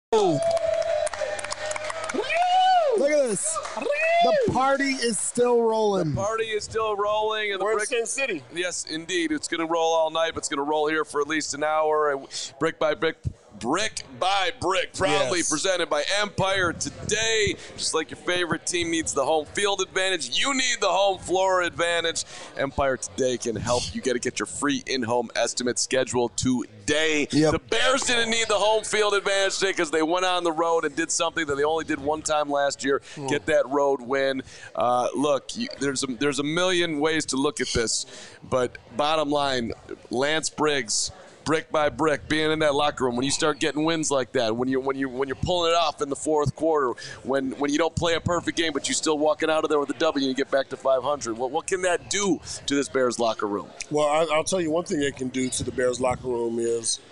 Look at this. The party is still rolling. Party is still rolling. And We're in Sin City. Yes, indeed. It's going to roll all night, but it's going to roll here for at least an hour. And brick by brick, proudly presented by Empire today. Just like your favorite team needs the home field advantage, you need the home floor advantage. Empire today can help. You got to get your free in-home estimate scheduled today. Yep. The Bears didn't need the home field advantage today because they went on the road and did something that they only did one time last year, get that road win. Look, there's a million ways to look at this, but bottom line, Lance Briggs, brick by brick, being in that locker room, when you start getting wins like that, when you're pulling it off in the fourth quarter, when you don't play a perfect game but you're still walking out of there with a W and you get back to 500, what can that do to this Bears locker room? Well, I'll tell you one thing it can do to the Bears locker room is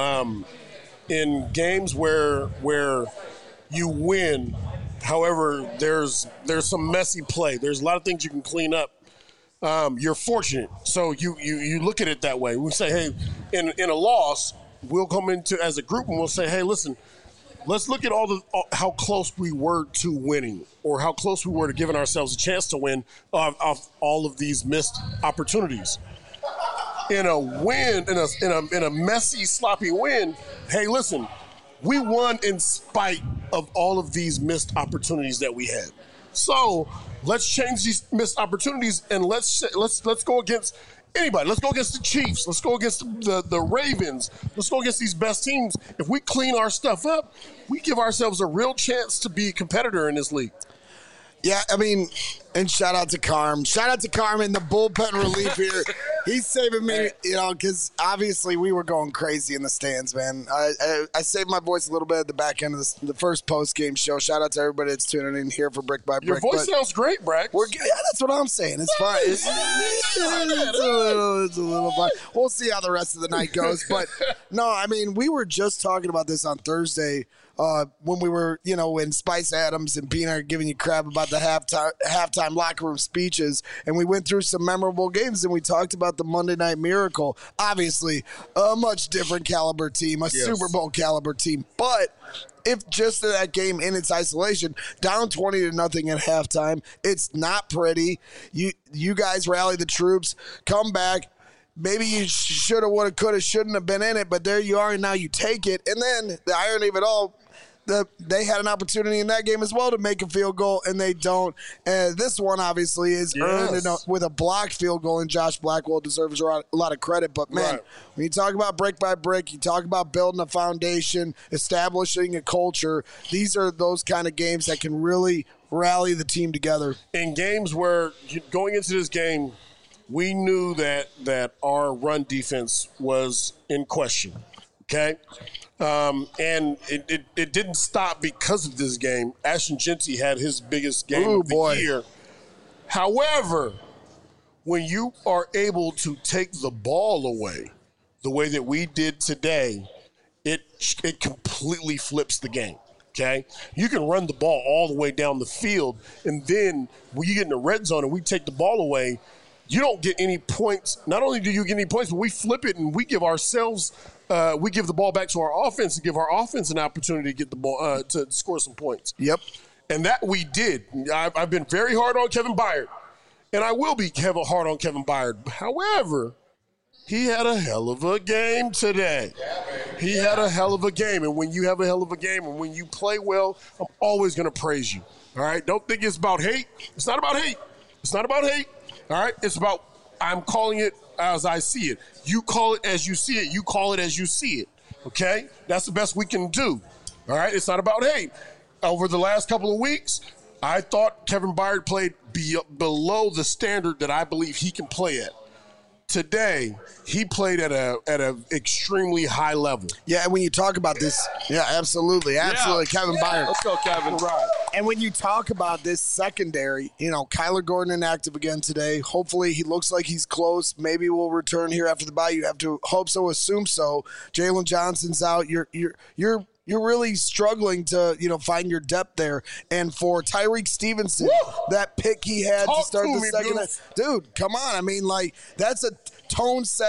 in games where you win, however, there's some messy play. There's a lot of things you can clean up. You're fortunate. So you look at it that way. We say, hey, in a loss, we'll come into as a group and we'll say, hey, listen, let's look at how close we were to winning or how close we were to giving ourselves a chance to win off all of these missed opportunities. In a win, in a messy, sloppy win, hey, listen, we won in spite of all of these missed opportunities that we had. So let's change these missed opportunities and let's go against anybody. Let's go against the Chiefs. Let's go against the Ravens. Let's go against these best teams. If we clean our stuff up, we give ourselves a real chance to be a competitor in this league. Yeah, I mean, and shout out to Carm. Shout out to Carm in the bullpen relief here. He's saving me, because obviously we were going crazy in the stands, man. I saved my voice a little bit at the back end of the first post-game show. Shout out to everybody that's tuning in here for Brick by Brick. Your voice sounds great, Brack. That's what I'm saying. It's fine. It's a little fun. We'll see how the rest of the night goes. But, no, I mean, we were just talking about this on Thursday when we were, when Spice Adams and Peanut are giving you crap about the halftime locker room speeches, and we went through some memorable games, and we talked about the Monday Night Miracle. Obviously, a much different caliber team, Super Bowl caliber team, but if just that game in its isolation, down 20-0 at halftime, it's not pretty. You guys rally the troops, come back. Maybe you shoulda, woulda, coulda, shouldn't have been in it, but there you are, and now you take it. And then the irony of it all, they had an opportunity in that game as well to make a field goal, and they don't. And this one obviously is earned with a blocked field goal, and Josh Blackwell deserves a lot of credit. But, man, when you talk about brick by brick, you talk about building a foundation, establishing a culture, these are those kind of games that can really rally the team together. In games where going into this game, we knew that our run defense was in question, okay? And it didn't stop because of this game. Ashton Jeanty had his biggest game of the year. However, when you are able to take the ball away the way that we did today, it completely flips the game. Okay, you can run the ball all the way down the field, and then when you get in the red zone and we take the ball away, you don't get any points. Not only do you get any points, but we flip it and we give ourselves, we give the ball back to our offense and give our offense an opportunity to get the ball to score some points. Yep, and that we did. I've been very hard on Kevin Byard, and I will be hard on Kevin Byard. However, he had a hell of a game today. He had a hell of a game. And when you have a hell of a game and when you play well, I'm always going to praise you. All right? Don't think it's about hate. It's not about hate. It's not about hate. All right? It's about I'm calling it as I see it. You call it as you see it. You call it as you see it. Okay? That's the best we can do. All right? It's not about hate. Over the last couple of weeks, I thought Kevin Byard played below the standard that I believe he can play at. Today, he played at a extremely high level. Yeah, and when you talk about this, absolutely, Kevin Byard. Let's go, Kevin. Right. And when you talk about this secondary, Kyler Gordon inactive again today. Hopefully, he looks like he's close. Maybe we'll return here after the bye. You have to hope so, assume so. Jalen Johnson's out. You're really struggling to, find your depth there. And for Tyreek Stevenson, that pick he had to start the second half. Dude, come on. I mean, that's a tone-setting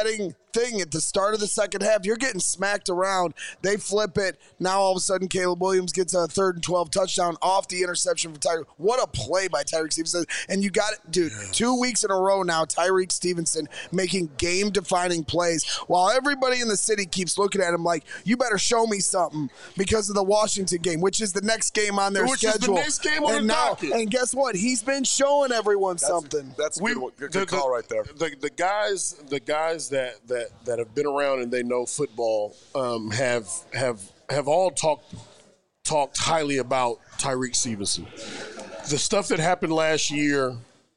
thing at the start of the second half. You're getting smacked around. They flip it. Now all of a sudden Caleb Williams gets a 3rd and 12 touchdown off the interception from Tyreek. What a play by Tyreek Stevenson. And you got it, dude, 2 weeks in a row now, Tyreek Stevenson making game-defining plays while everybody in the city keeps looking at him like, you better show me something because of the Washington game, which is the next game on their schedule. Is the next game on the docket. And guess what? He's been showing everyone something. That's a good call right there. The guys that have been around and they know football have all talked highly about Tyreek Stevenson. The stuff that happened last year,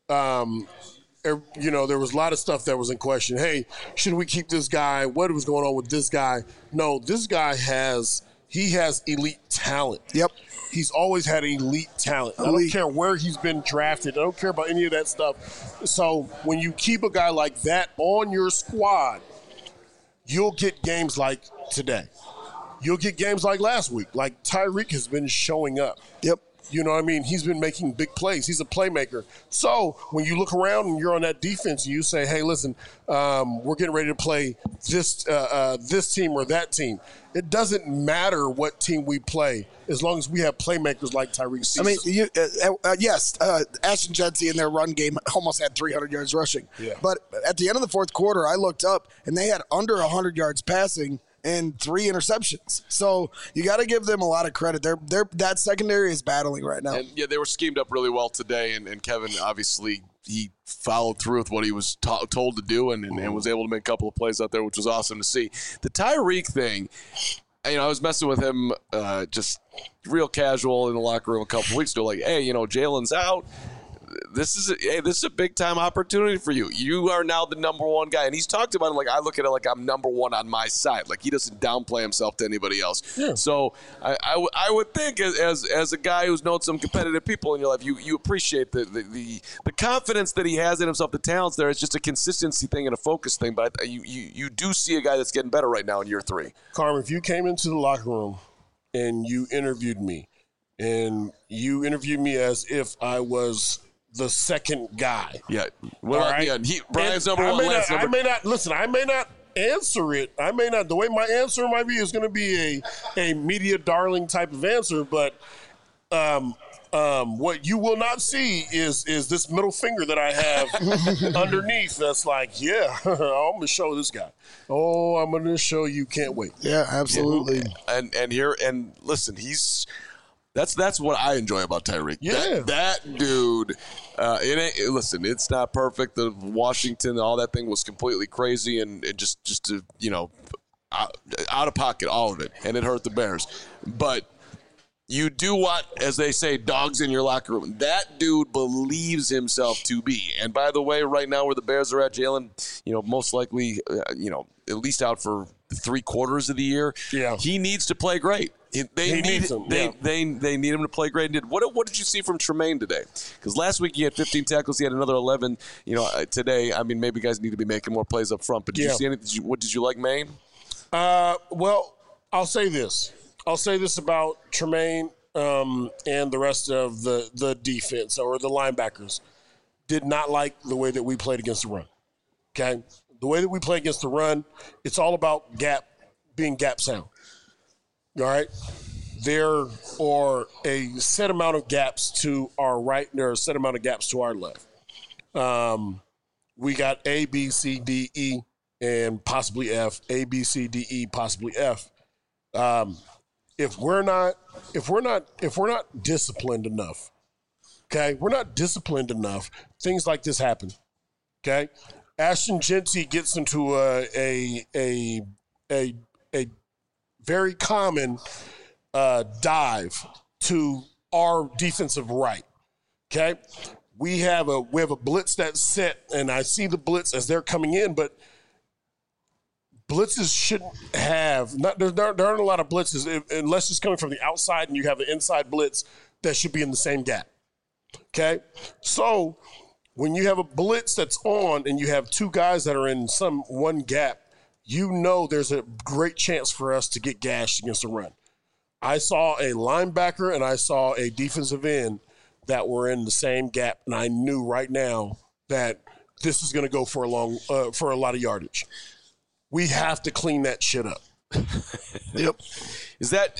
there was a lot of stuff that was in question. Hey, should we keep this guy? What was going on with this guy? No, this guy has elite talent. Yep. He's always had elite talent. I don't care where he's been drafted. I don't care about any of that stuff. So when you keep a guy like that on your squad, you'll get games like today. You'll get games like last week. Like Tyreek has been showing up. Yep. You know what I mean? He's been making big plays. He's a playmaker. So when you look around and you're on that defense and you say, hey, listen, we're getting ready to play this team or that team. It doesn't matter what team we play as long as we have playmakers like Tyreek Stevenson. I mean, yes, Ashton Jeanty in their run game almost had 300 yards rushing. Yeah. But at the end of the fourth quarter, I looked up, and they had under 100 yards passing and 3 interceptions. So you got to give them a lot of credit. That secondary is battling right now. And, yeah, they were schemed up really well today, and Kevin obviously he followed through with what he was told to do and was able to make a couple of plays out there, which was awesome to see. The Tyreek thing, I was messing with him just real casual in the locker room a couple of weeks ago, like, hey, Jalen's out. This is a big time opportunity for you. You are now the number one guy, and he's talked about it like I look at it like I'm number one on my side. Like he doesn't downplay himself to anybody else. Yeah. So I would think as a guy who's known some competitive people in your life, you appreciate the confidence that he has in himself, the talents there. It's just a consistency thing and a focus thing. But you do see a guy that's getting better right now in year 3. Carmen, if you came into the locker room and you interviewed me, and you interviewed me as if I was the second guy. Yeah. Well, right? Yeah. Brian's number one. I may not answer it. The way my answer might be is going to be a media darling type of answer, but what you will not see is this middle finger that I have underneath that's like, yeah, I'm going to show this guy. Oh, I'm going to show you. Can't wait. Yeah, absolutely. And listen, That's what I enjoy about Tyreek. Yeah. That dude, listen, it's not perfect. The Washington, all that thing was completely crazy and just out of pocket, all of it. And it hurt the Bears. But you do what, as they say, dogs in your locker room. That dude believes himself to be. And by the way, right now where the Bears are at, Jalen, most likely, at least out for 3/4 of the year. Yeah. He needs to play great. They need him to play great. And what did you see from Tremaine today? Because last week he had 15 tackles. He had another 11. Today, I mean, maybe guys need to be making more plays up front. But did you see anything? What did you like, Maine? Well, I'll say this. About Tremaine and the rest of the defense or the linebackers. Did not like the way that we played against the run. Okay? The way that we play against the run, it's all about being gap sound. All right? There are a set amount of gaps to our right, and there are a set amount of gaps to our left. We got A, B, C, D, E, and possibly F. A, B, C, D, E, possibly F. If we're not disciplined enough, okay, things like this happen. Okay? Ashton Jeanty gets into a very common dive to our defensive right. Okay, we have a blitz that's set, and I see the blitz as they're coming in, but blitzes shouldn't have there aren't a lot of blitzes unless it's coming from the outside and you have the inside blitz that should be in the same gap. Okay, so when you have a blitz that's on and you have two guys that are in one gap, there's a great chance for us to get gashed against the run. I saw a linebacker and I saw a defensive end that were in the same gap, and I knew right now that this is going to go for a lot of yardage. we have to clean that shit up. Yep. Is that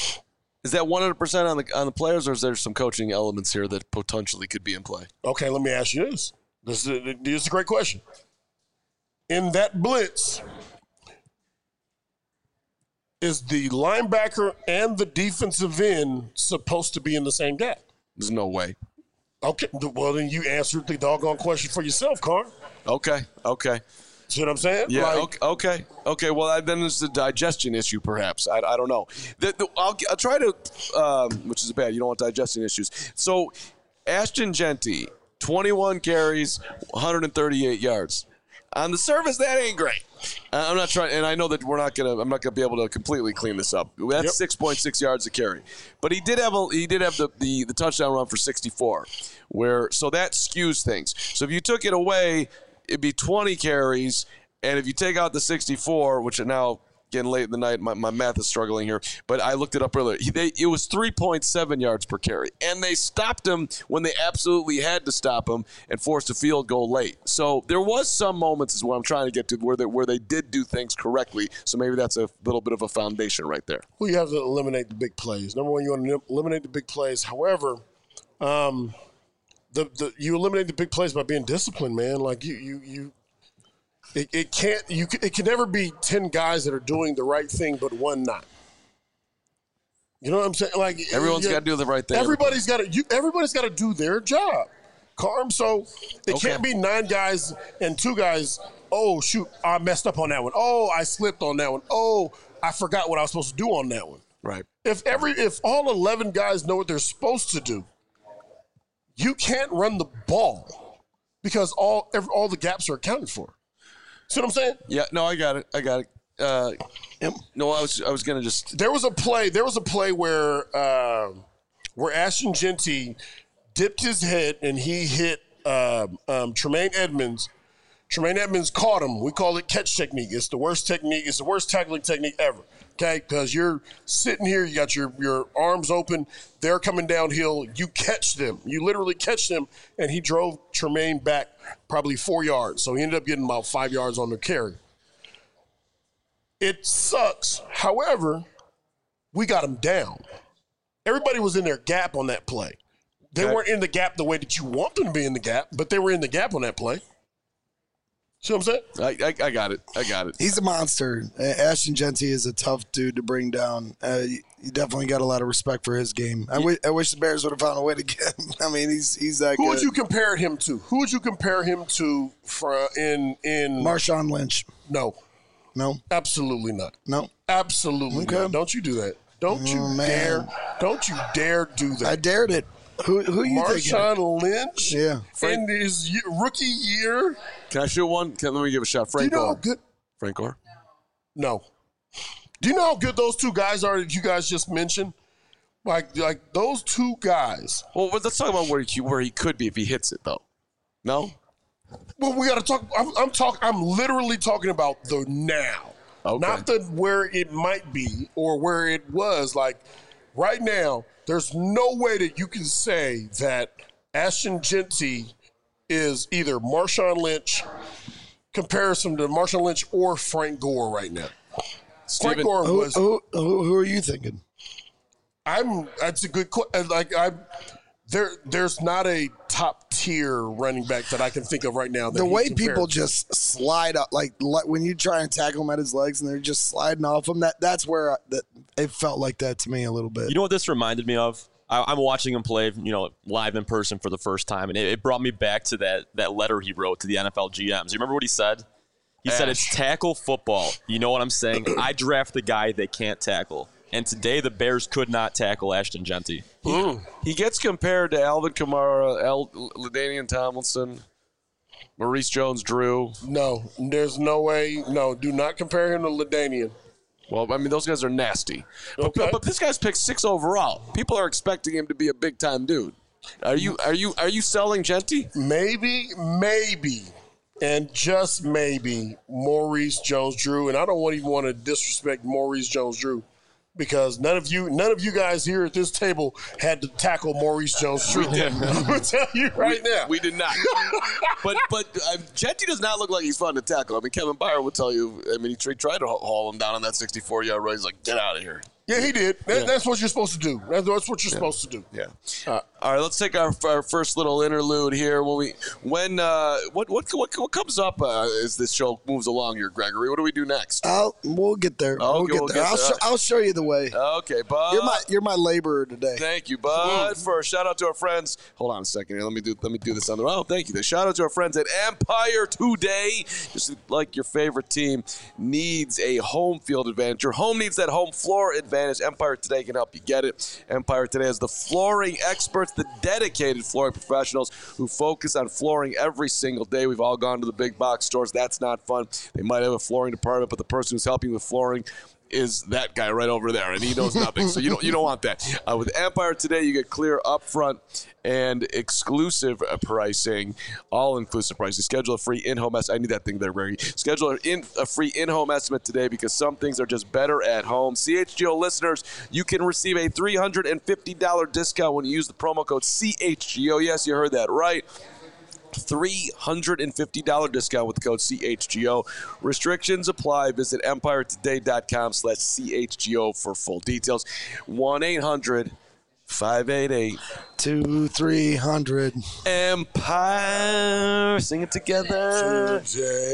100% on the players, or is there some coaching elements here that potentially could be in play? Okay, let me ask you this. This is a great question. In that blitz, is the linebacker and the defensive end supposed to be in the same gap? There's no way. Okay, well, then you answered the doggone question for yourself, Carr. Okay. See what I'm saying? Yeah. Okay. Well, then there's the digestion issue, perhaps. I don't know. I'll try to, which is bad. You don't want digestion issues. So, Ashton Jeanty, 21 carries, 138 yards. On the surface, that ain't great. I'm not trying, and I know that I'm not gonna be able to completely clean this up. That's 6.6 yards a carry, but he did have the touchdown run for 64, so that skews things. So if you took it away, it'd be 20 carries, and if you take out the 64, which are now getting late in the night, my math is struggling here, but I looked it up earlier. It was 3.7 yards per carry, and they stopped him when they absolutely had to stop him and forced a field goal late. So there was some moments, is what I'm trying to get to, where they did do things correctly. So maybe that's a little bit of a foundation right there. Well, you have to eliminate the big plays. Number one, you want to eliminate the big plays. However, you eliminate the big plays by being disciplined, man. Like It can never be 10 guys that are doing the right thing, but one not. You know what I'm saying? Like Everyone's got to do the right thing. Everybody's got to do their job, Carm. So it can't be 9 guys and 2 guys. Oh shoot, I messed up on that one. Oh, I slipped on that one. Oh, I forgot what I was supposed to do on that one. Right. If all 11 guys know what they're supposed to do, you can't run the ball because all the gaps are accounted for. See what I'm saying? Yeah, no, I got it. No, I was gonna just. There was a play where Ashton Jeanty dipped his head and he hit Tremaine Edmonds. Tremaine Edmonds caught him. We call it catch technique. It's the worst technique. It's the worst tackling technique ever. Okay, because you're sitting here, you got your arms open. They're coming downhill. You catch them. You literally catch them, and he drove Tremaine back probably 4 yards. So he ended up getting about 5 yards on the carry. It sucks. However, we got him down. Everybody was in their gap on that play. They weren't in the gap the way that you want them to be in the gap, but they were in the gap on that play. See what I'm saying? I got it. He's a monster. Ashton Jeanty is a tough dude to bring down. You definitely got a lot of respect for his game. I wish the Bears would have found a way to get him. I mean, he's that good. Who would you compare him to? In Marshawn Lynch? No. Absolutely not. No. Absolutely not. Don't you do that. Don't you dare. Don't you dare do that. I dared it. Who you thinking? Marshawn Lynch? Yeah. In his rookie year? Can I shoot one? Let me give a shot. Frank Gore. Frank Gore? No. Do you know how good those 2 guys are that you guys just mentioned? Like those 2 guys. Well, let's talk about where he could be if he hits it, though. No? Well, we got to talk. I'm literally talking about the now. Okay. Not the where it might be or where it was. Like right now, there's no way that you can say that Ashton Jeanty is either Marshawn Lynch, comparison to Marshawn Lynch or Frank Gore right now. Frank Gore was. Who are you thinking? That's a good question. There's not a top tier running back that I can think of right now. The way people just slide up, like when you try and tackle him at his legs and they're just sliding off him, that's where it felt like that to me a little bit. You know what this reminded me of? I'm watching him play, live in person for the first time, and it brought me back to that letter he wrote to the NFL GMs. You remember what he said? He said, "It's tackle football. You know what I'm saying? I draft the guy they can't tackle." And today, the Bears could not tackle Ashton Jeanty. He gets compared to Alvin Kamara, LaDainian Tomlinson, Maurice Jones-Drew. No, there's no way. No, do not compare him to LaDainian. Well, I mean, those guys are nasty. Okay. But this guy's picked 6 overall. People are expecting him to be a big-time dude. Are you selling Jeanty? Maybe, and just maybe Maurice Jones-Drew. And I don't even want to disrespect Maurice Jones-Drew. because none of you guys here at this table had to tackle Maurice Jones-Drew. I'm going to tell you right now. We did not. but Jetty does not look like he's fun to tackle. I mean, Kevin Byard would tell you. I mean, he tried to haul him down on that 64-yard run. He's like, get out of here. Yeah, he did. That's what you're supposed to do. That's what you're supposed to do. Yeah. All right, let's take our first little interlude here. What comes up as this show moves along here, Gregory? What do we do next? We'll get there. Okay, we'll get there. I'll show you the way. Okay, Bud. You're my laborer today. Thank you, Bud. First, shout out to our friends. Hold on a second here. Let me do this on the. Oh, thank you. Shout out to our friends at Empire Today. Just like your favorite team needs a home field advantage. Your home needs that home floor advantage. Empire Today can help you get it. Empire Today is the flooring experts, the dedicated flooring professionals who focus on flooring every single day. We've all gone to the big box stores. That's not fun. They might have a flooring department, but the person who's helping with flooring is that guy right over there, and he knows nothing. So you don't want that. With Empire Today, you get clear upfront and exclusive pricing, all-inclusive pricing. Schedule a free in-home estimate. I need that thing there, Greg. Schedule a free in-home estimate today because some things are just better at home. CHGO listeners, you can receive a $350 discount when you use the promo code CHGO. Yes, you heard that right. $350 discount with the code CHGO. Restrictions apply. Visit EmpireToday.com/CHGO for full details. 1-800-588-2300. Empire. Sing it together.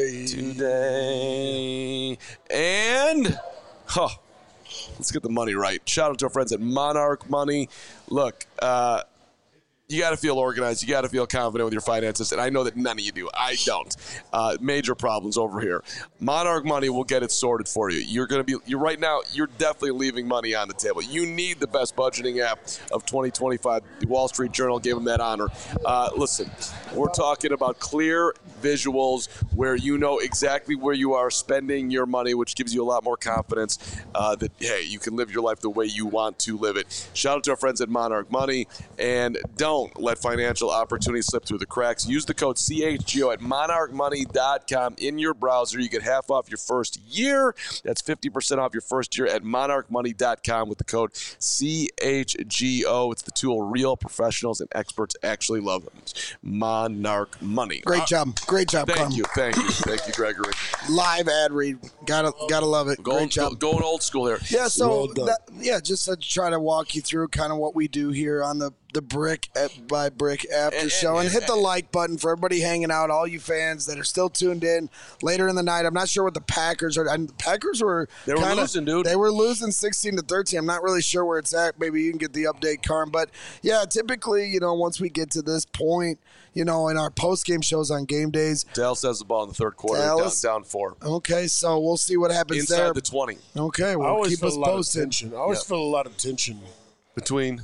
Today. And, let's get the money right. Shout out to our friends at Monarch Money. Look, you got to feel organized. You got to feel confident with your finances, and I know that none of you do. I don't. Major problems over here. Monarch Money will get it sorted for you. You're right now. You're definitely leaving money on the table. You need the best budgeting app of 2025. The Wall Street Journal gave them that honor. Listen, we're talking about clear visuals where you know exactly where you are spending your money, which gives you a lot more confidence that hey, you can live your life the way you want to live it. Shout out to our friends at Monarch Money, and don't let financial opportunities slip through the cracks. Use the code CHGO at monarchmoney.com in your browser. You get half off your first year. That's 50% off your first year at monarchmoney.com with the code CHGO. It's the tool real professionals and experts actually love. Monarch Money. Great job, Thank you, Gregory. Live ad read. Gotta love it. Great job. Going old school here. Yeah, so just to try to walk you through kind of what we do here on the Brick by Brick after show, and hit the like button for everybody hanging out, all you fans that are still tuned in later in the night. I'm not sure what the Packers are. The Packers were losing, dude. They were losing 16-13. I'm not really sure where it's at. Maybe you can get the update, Carm. But yeah, typically, once we get to this point, in our post-game shows on game days. Dallas has the ball in the third quarter, down 4. Okay, so we'll see what happens inside there. the 20. Okay, well, keep us posted. I always feel a lot of tension. Between?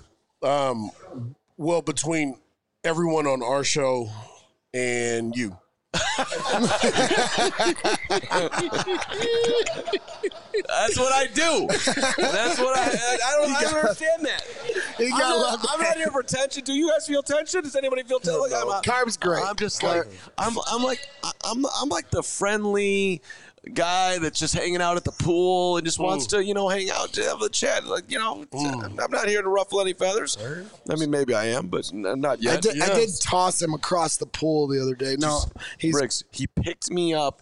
Between everyone on our show and you. That's what I do. That's what I don't understand that. I'm not here for tension. Do you guys feel tension? Does anybody feel tension? Carb's great. I'm just like I'm like the friendly guy that's just hanging out at the pool and just wants to, hang out, have a chat. Like, I'm not here to ruffle any feathers. I mean, maybe I am, but not yet. I did toss him across the pool the other day. No, Briggs, he picked me up.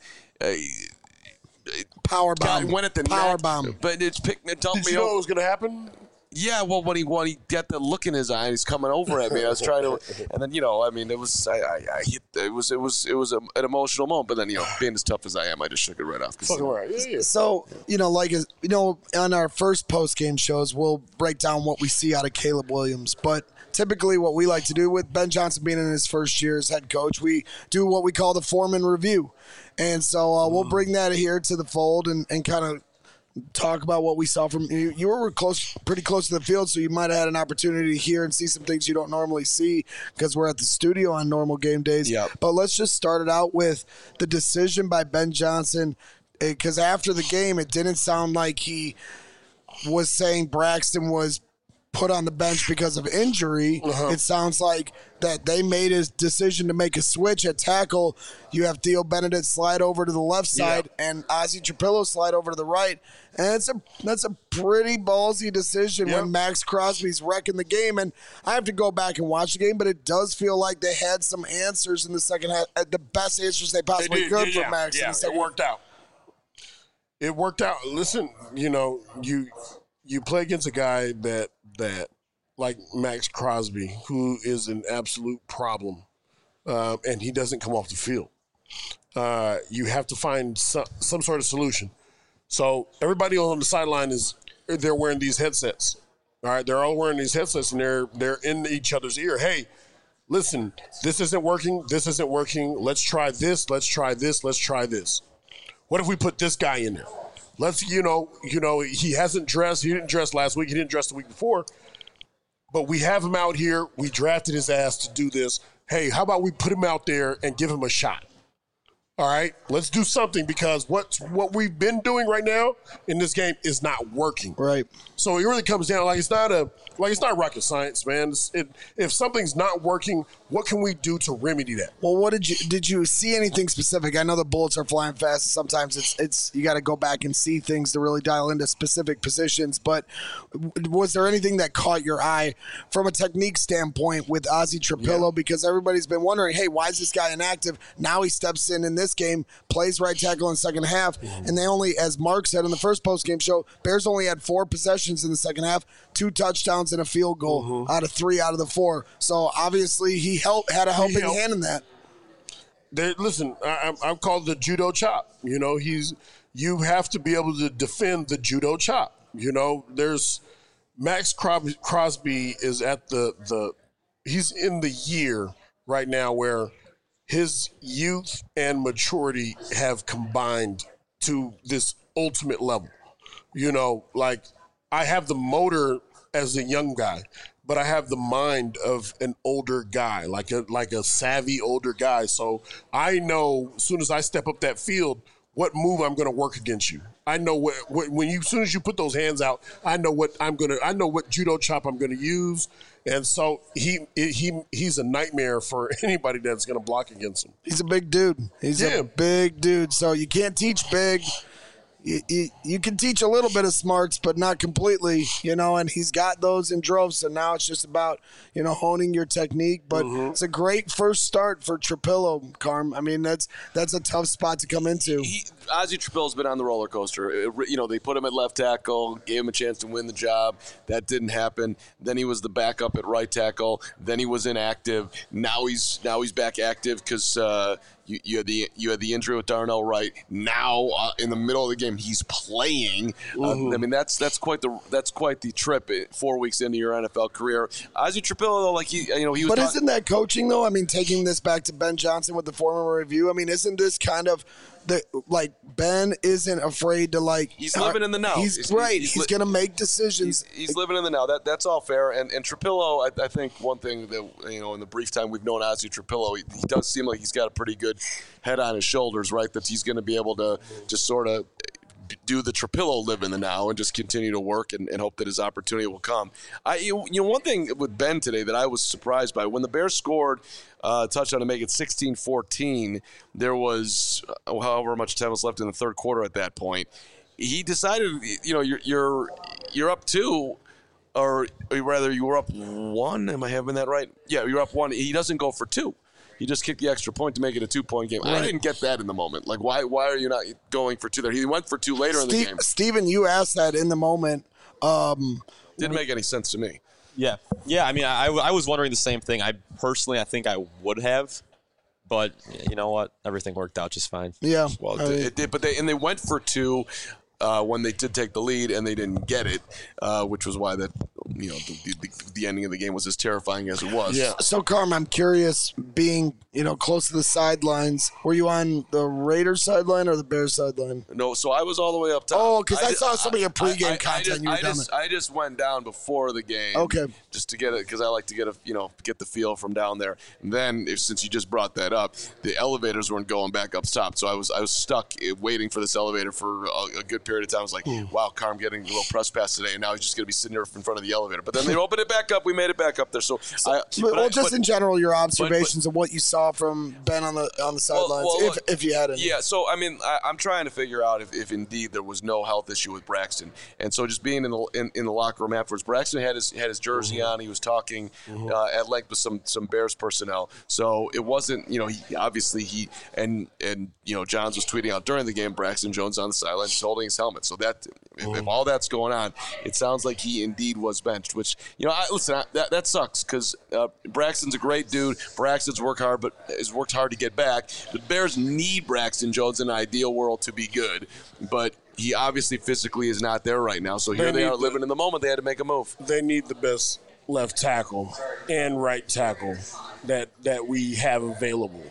Power bomb. Went at the power net, bomb. But it's picked me, dumped me. Did you know what was going to happen? Yeah, well, when he got the look in his eye, he's coming over at me. I was trying to, and then it was I hit. It was an emotional moment. But then being as tough as I am, I just shook it right off. So on our first post game shows, we'll break down what we see out of Caleb Williams. But typically, what we like to do with Ben Johnson being in his first year as head coach, we do what we call the foreman review, and so we'll bring that here to the fold and kind of talk about what we saw from you. You were pretty close to the field, so you might have had an opportunity to hear and see some things you don't normally see because we're at the studio on normal game days. Yep. But let's just start it out with the decision by Ben Johnson, because after the game, it didn't sound like he was saying Braxton was put on the bench because of injury. It sounds like that they made a decision to make a switch at tackle. You have Theo Benedict slide over to the left side and Ozzie Trapillo slide over to the right. And that's a pretty ballsy decision when Max Crosby's wrecking the game. And I have to go back and watch the game, but it does feel like they had some answers in the second half, the best answers they possibly could for Max. Yeah, it worked out. It worked out. Listen, you play against a guy that like Max Crosby, who is an absolute problem, and he doesn't come off the field. You have to find some sort of solution. So everybody on the sideline they're wearing these headsets. All right, they're all wearing these headsets, and they're in each other's ear. Hey, listen, this isn't working. This isn't working. Let's try this. Let's try this. Let's try this. What if we put this guy in there? Let's, he hasn't dressed. He didn't dress last week. He didn't dress the week before. But we have him out here. We drafted his ass to do this. Hey, how about we put him out there and give him a shot? All right, let's do something because what we've been doing right now in this game is not working. Right. So it really comes down it's not rocket science, man. If something's not working, what can we do to remedy that? Well, what did you see anything specific? I know the bullets are flying fast. And sometimes it's you got to go back and see things to really dial into specific positions. But was there anything that caught your eye from a technique standpoint with Ozzie Trapillo? Yeah. Because everybody's been wondering, hey, why is this guy inactive? Now he steps in this game, plays right tackle in the second half, and they only, as Mark said in the first post-game show, Bears only had 4 possessions in the second half, 2 touchdowns and a field goal out of 3 out of the 4. So obviously he had a helping hand in that. Listen, I'm called the judo chop. You have to be able to defend the judo chop. There's Max Crosby is at he's in the year right now where his youth and maturity have combined to this ultimate level. I have the motor as a young guy, but I have the mind of an older guy, like a savvy older guy. So I know as soon as I step up that field, what move I'm going to work against you. I know as soon as you put those hands out, I know what judo chop I'm going to use. And so he's a nightmare for anybody that's going to block against him. He's a big dude. He's a big dude. So you can't teach big. You can teach a little bit of smarts, but not completely, and he's got those in droves. So now it's just about, honing your technique. But it's a great first start for Trapillo, Carm. I mean, that's a tough spot to come into. Ozzie Trapillo's been on the roller coaster. They put him at left tackle, gave him a chance to win the job. That didn't happen. Then he was the backup at right tackle. Then he was inactive. Now he's back active because you had the injury with Darnell Wright. Now in the middle of the game, he's playing. I mean, that's quite the trip. 4 weeks into your NFL career, Ozzie Trapillo, though, he was. But isn't that coaching though? I mean, taking this back to Ben Johnson with the former review. I mean, isn't this kind of Ben isn't afraid to he's living in the now. He's going to make decisions. He's living in the now. That's all fair. And Trapillo, I think one thing that in the brief time we've known Ozzie Trapillo, he does seem like he's got a pretty good head on his shoulders, right? That he's going to be able to just sort of do the Trapillo live in the now and just continue to work and hope that his opportunity will come. One thing with Ben today that I was surprised by, when the Bears scored a touchdown to make it 16-14, there was however much time was left in the third quarter at that point. He decided, you're up 2, or rather you were up 1. Am I having that right? Yeah, you're up 1. He doesn't go for 2. He just kicked the extra point to make it a 2-point game. Right. I didn't get that in the moment. Why are you not going for 2 there? He went for 2 later in the game. Steven, you asked that in the moment. Didn't make any sense to me. Yeah. I mean, I was wondering the same thing. I think I would have, but you know what? Everything worked out just fine. Yeah. Well, it did. But they went for 2 when they did take the lead, and they didn't get it, which was why that the ending of the game was as terrifying as it was. Yeah. So, Carm, I'm curious, being close to the sidelines, were you on the Raiders sideline or the Bears sideline? No, so I was all the way up top. Oh, because I saw some of your pregame content. I just went down before the game. Okay. Just to get it, because I like to get the feel from down there. And then, since you just brought that up, the elevators weren't going back up top, so I was stuck waiting for this elevator for a good period of time. I was like, wow, Carm getting a little press pass today, and now he's just going to be sitting there in front of the elevator elevator. But then they opened it back up. We made it back up there. So, in general, your observations of what you saw from Ben on the sidelines, if you had any. Yeah. So I mean, I'm trying to figure out if indeed there was no health issue with Braxton, and so just being in the locker room afterwards, Braxton had his jersey on. He was talking at length with some Bears personnel. So it wasn't, and Johns was tweeting out during the game, Braxton Jones on the sideline just holding his helmet. So that if all that's going on, it sounds like he indeed was benched. Which that sucks because Braxton's a great dude. Braxton's worked hard to get back. The Bears need Braxton Jones in an ideal world to be good, but he obviously physically is not there right now. So here they are living in the moment. They had to make a move. They need the best left tackle and right tackle that we have available.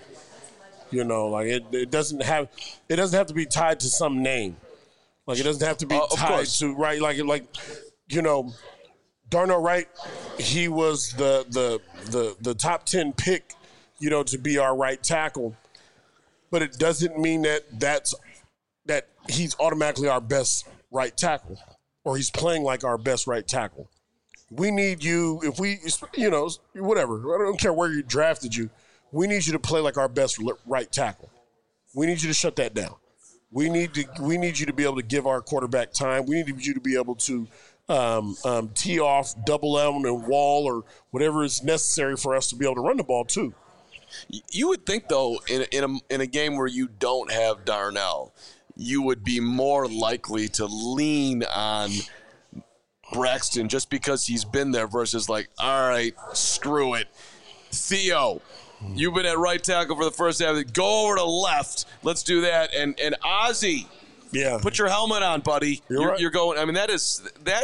It doesn't have to be tied to some name. Like it doesn't have to be tied to right. Darnell Wright, he was the top 10 pick, to be our right tackle, but it doesn't mean that he's automatically our best right tackle or he's playing like our best right tackle. We need you, whatever. I don't care where you drafted you. We need you to play like our best right tackle. We need you to shut that down. We need you to be able to give our quarterback time. We need you to be able to tee off, double M and wall or whatever is necessary for us to be able to run the ball too. You would think though, in a game where you don't have Darnell, you would be more likely to lean on Braxton just because he's been there versus all right, screw it. Theo, you've been at right tackle for the first half. Go over to left. Let's do that. And Ozzie, put your helmet on, buddy. You're going. I mean, that is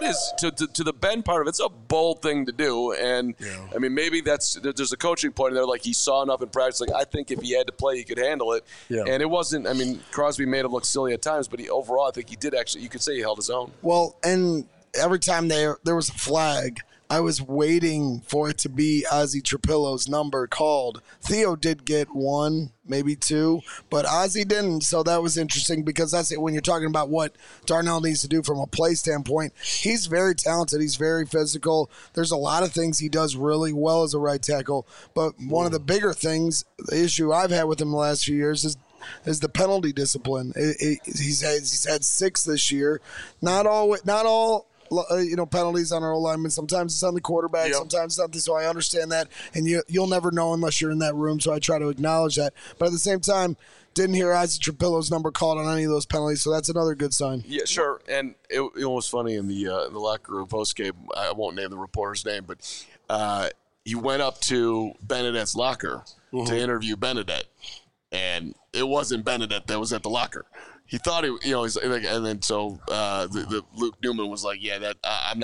to the Ben part of it. It's a bold thing to do. And I mean, maybe there's a coaching point in there. Like he saw enough in practice. Like I think if he had to play, he could handle it. Yeah. And it wasn't. I mean, Crosby made him look silly at times, but overall, I think he did actually. You could say he held his own. Well, and every time there was a flag, I was waiting for it to be Ozzie Trapillo's number called. Theo did get one, maybe two, but Ozzie didn't. So that was interesting because that's it. When you're talking about what Darnell needs to do from a play standpoint, he's very talented. He's very physical. There's a lot of things he does really well as a right tackle. But one of the bigger things, the issue I've had with him the last few years is the penalty discipline. He's had 6 this year. Not all. Penalties on our O-linemen. Sometimes it's on the quarterback. Sometimes it's not. So I understand that, and you'll never know unless you're in that room. So I try to acknowledge that. But at the same time, didn't hear Ozzie Trapillo's number called on any of those penalties. So that's another good sign. Yeah, sure. And it was funny in the locker room post game. I won't name the reporter's name, but he went up to Benedette's locker to interview Benedette, and it wasn't Benedette that was at the locker. He thought he's like, and then so the Luke Newman was like, yeah, that I'm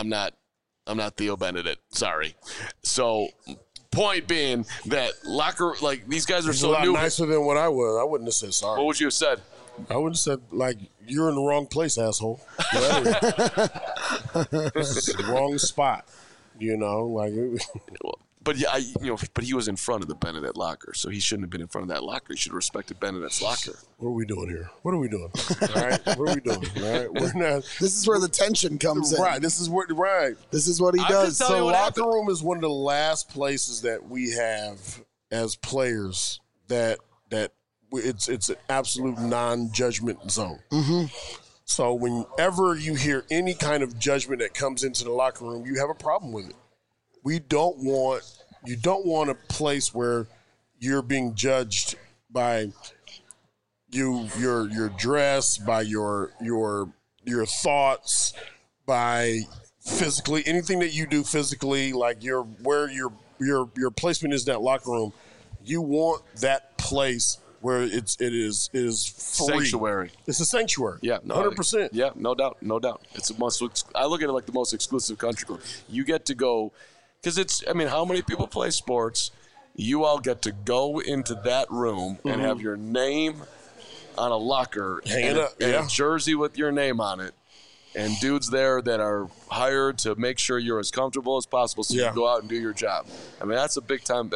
not Theo Benedette. Sorry. So point being that locker, like these guys are so new. Nicer than what I was. I wouldn't have said sorry. What would you have said? I would have said you're in the wrong place, asshole. This is the wrong spot. But but he was in front of the Benedette locker, so he shouldn't have been in front of that locker. He should have respected Benedette's locker. What are we doing here? All right, what are we doing? All right, we're not. This is where the tension comes in. Right. This is what he does. So locker room is one of the last places that we have as players that it's an absolute non-judgment zone. Mm-hmm. So whenever you hear any kind of judgment that comes into the locker room, you have a problem with it. You don't want a place where you're being judged by your dress, by your thoughts, by physically anything that you do physically, like where your placement is in that locker room. You want that place where it is free. Sanctuary. It's a sanctuary. Yeah, 100%. Yeah, no doubt. It's a must. I look at it like the most exclusive country club. You get to go. Because how many people play sports? You all get to go into that room and have your name on a locker and a jersey with your name on it, and dudes there that are hired to make sure you're as comfortable as possible so you can go out and do your job. I mean, that's a big time.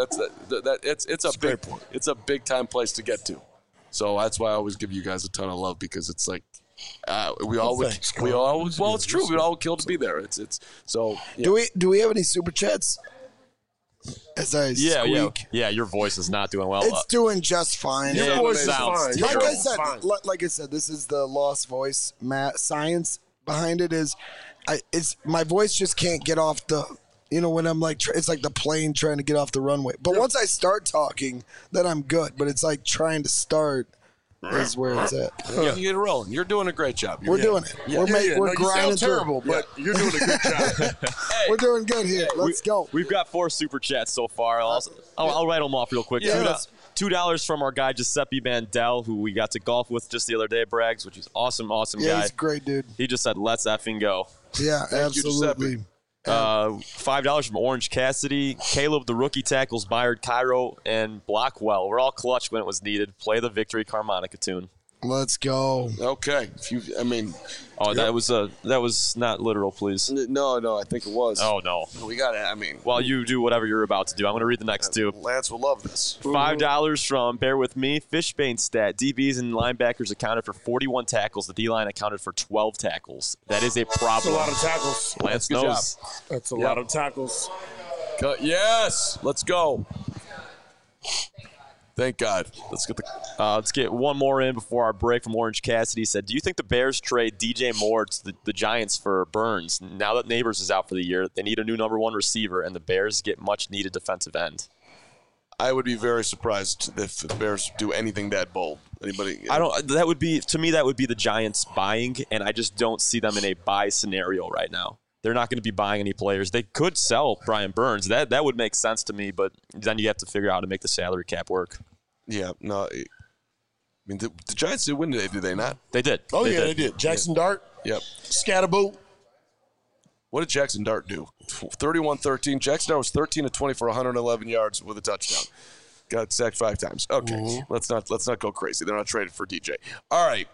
It's a big time place to get to. So that's why I always give you guys a ton of love because it's like We all would. thanks, We Carl. all. Well, it's true. We'd all kill to be there. It's so. Yeah. Do we have any super chats? As I squeak. Yeah. Your voice is not doing well. It's doing just fine. Yeah, Your voice is sounds fine. terrible. Your Like I voice is said, fine. like I said, this is the lost voice. Science behind it is, it's my voice just can't get off the. You know, when I'm like, it's like the plane trying to get off the runway. But once I start talking, then I'm good. But it's like trying to start is where it's at. You get it rolling. You're doing a great job. We're doing it. Yeah. We're No, you grinding sound through. terrible, but you're doing a good job. We're doing good here. Let's go. We've got 4 super chats so far. I'll write them off real quick. Yeah. $2 from our guy Giuseppe Mandel, who we got to golf with just the other day, Braggs, which is awesome Yeah, guy. he's a great dude. He just said, "Let's effing go." Yeah, you, absolutely. $5 from Orange Cassidy, Caleb the rookie tackles Byard Cairo, and Blockwell. We're all clutch when it was needed. Play the Victory Harmonica tune. Let's go. Okay. Oh, that was not literal, please. No. I think it was. Oh no. We got it. Well, you do whatever you're about to do. I'm going to read the next two. Lance will love this. $5 from Bear With Me. Fishbane stat. DBs and linebackers accounted for 41 tackles. The D-line accounted for 12 tackles. That is a That's a problem. lot of tackles. Lance Good knows. job. That's a lot of tackles. Yes. Let's go. Thank God. Let's get one more in before our break from Orange Cassidy. He said, do you think the Bears trade DJ Moore to the Giants for Burns? Now that Neighbors is out for the year, they need a new number 1 receiver, and the Bears get much-needed defensive end. I would be very surprised if the Bears do anything that bold. Anybody? That would be the Giants buying, and I just don't see them in a buy scenario right now. They're not going to be buying any players. They could sell Brian Burns. That would make sense to me, but then you have to figure out how to make the salary cap work. Yeah, no. I mean, the Giants did win today, did they not? They did. Oh, they did. Jackson Dart, Yep. Scatterboo. What did Jackson Dart do? 31-13. Jackson Dart was 13 of 20 for 111 yards with a touchdown. Got sacked 5 times. Okay, let's not go crazy. They're not traded for DJ. All right.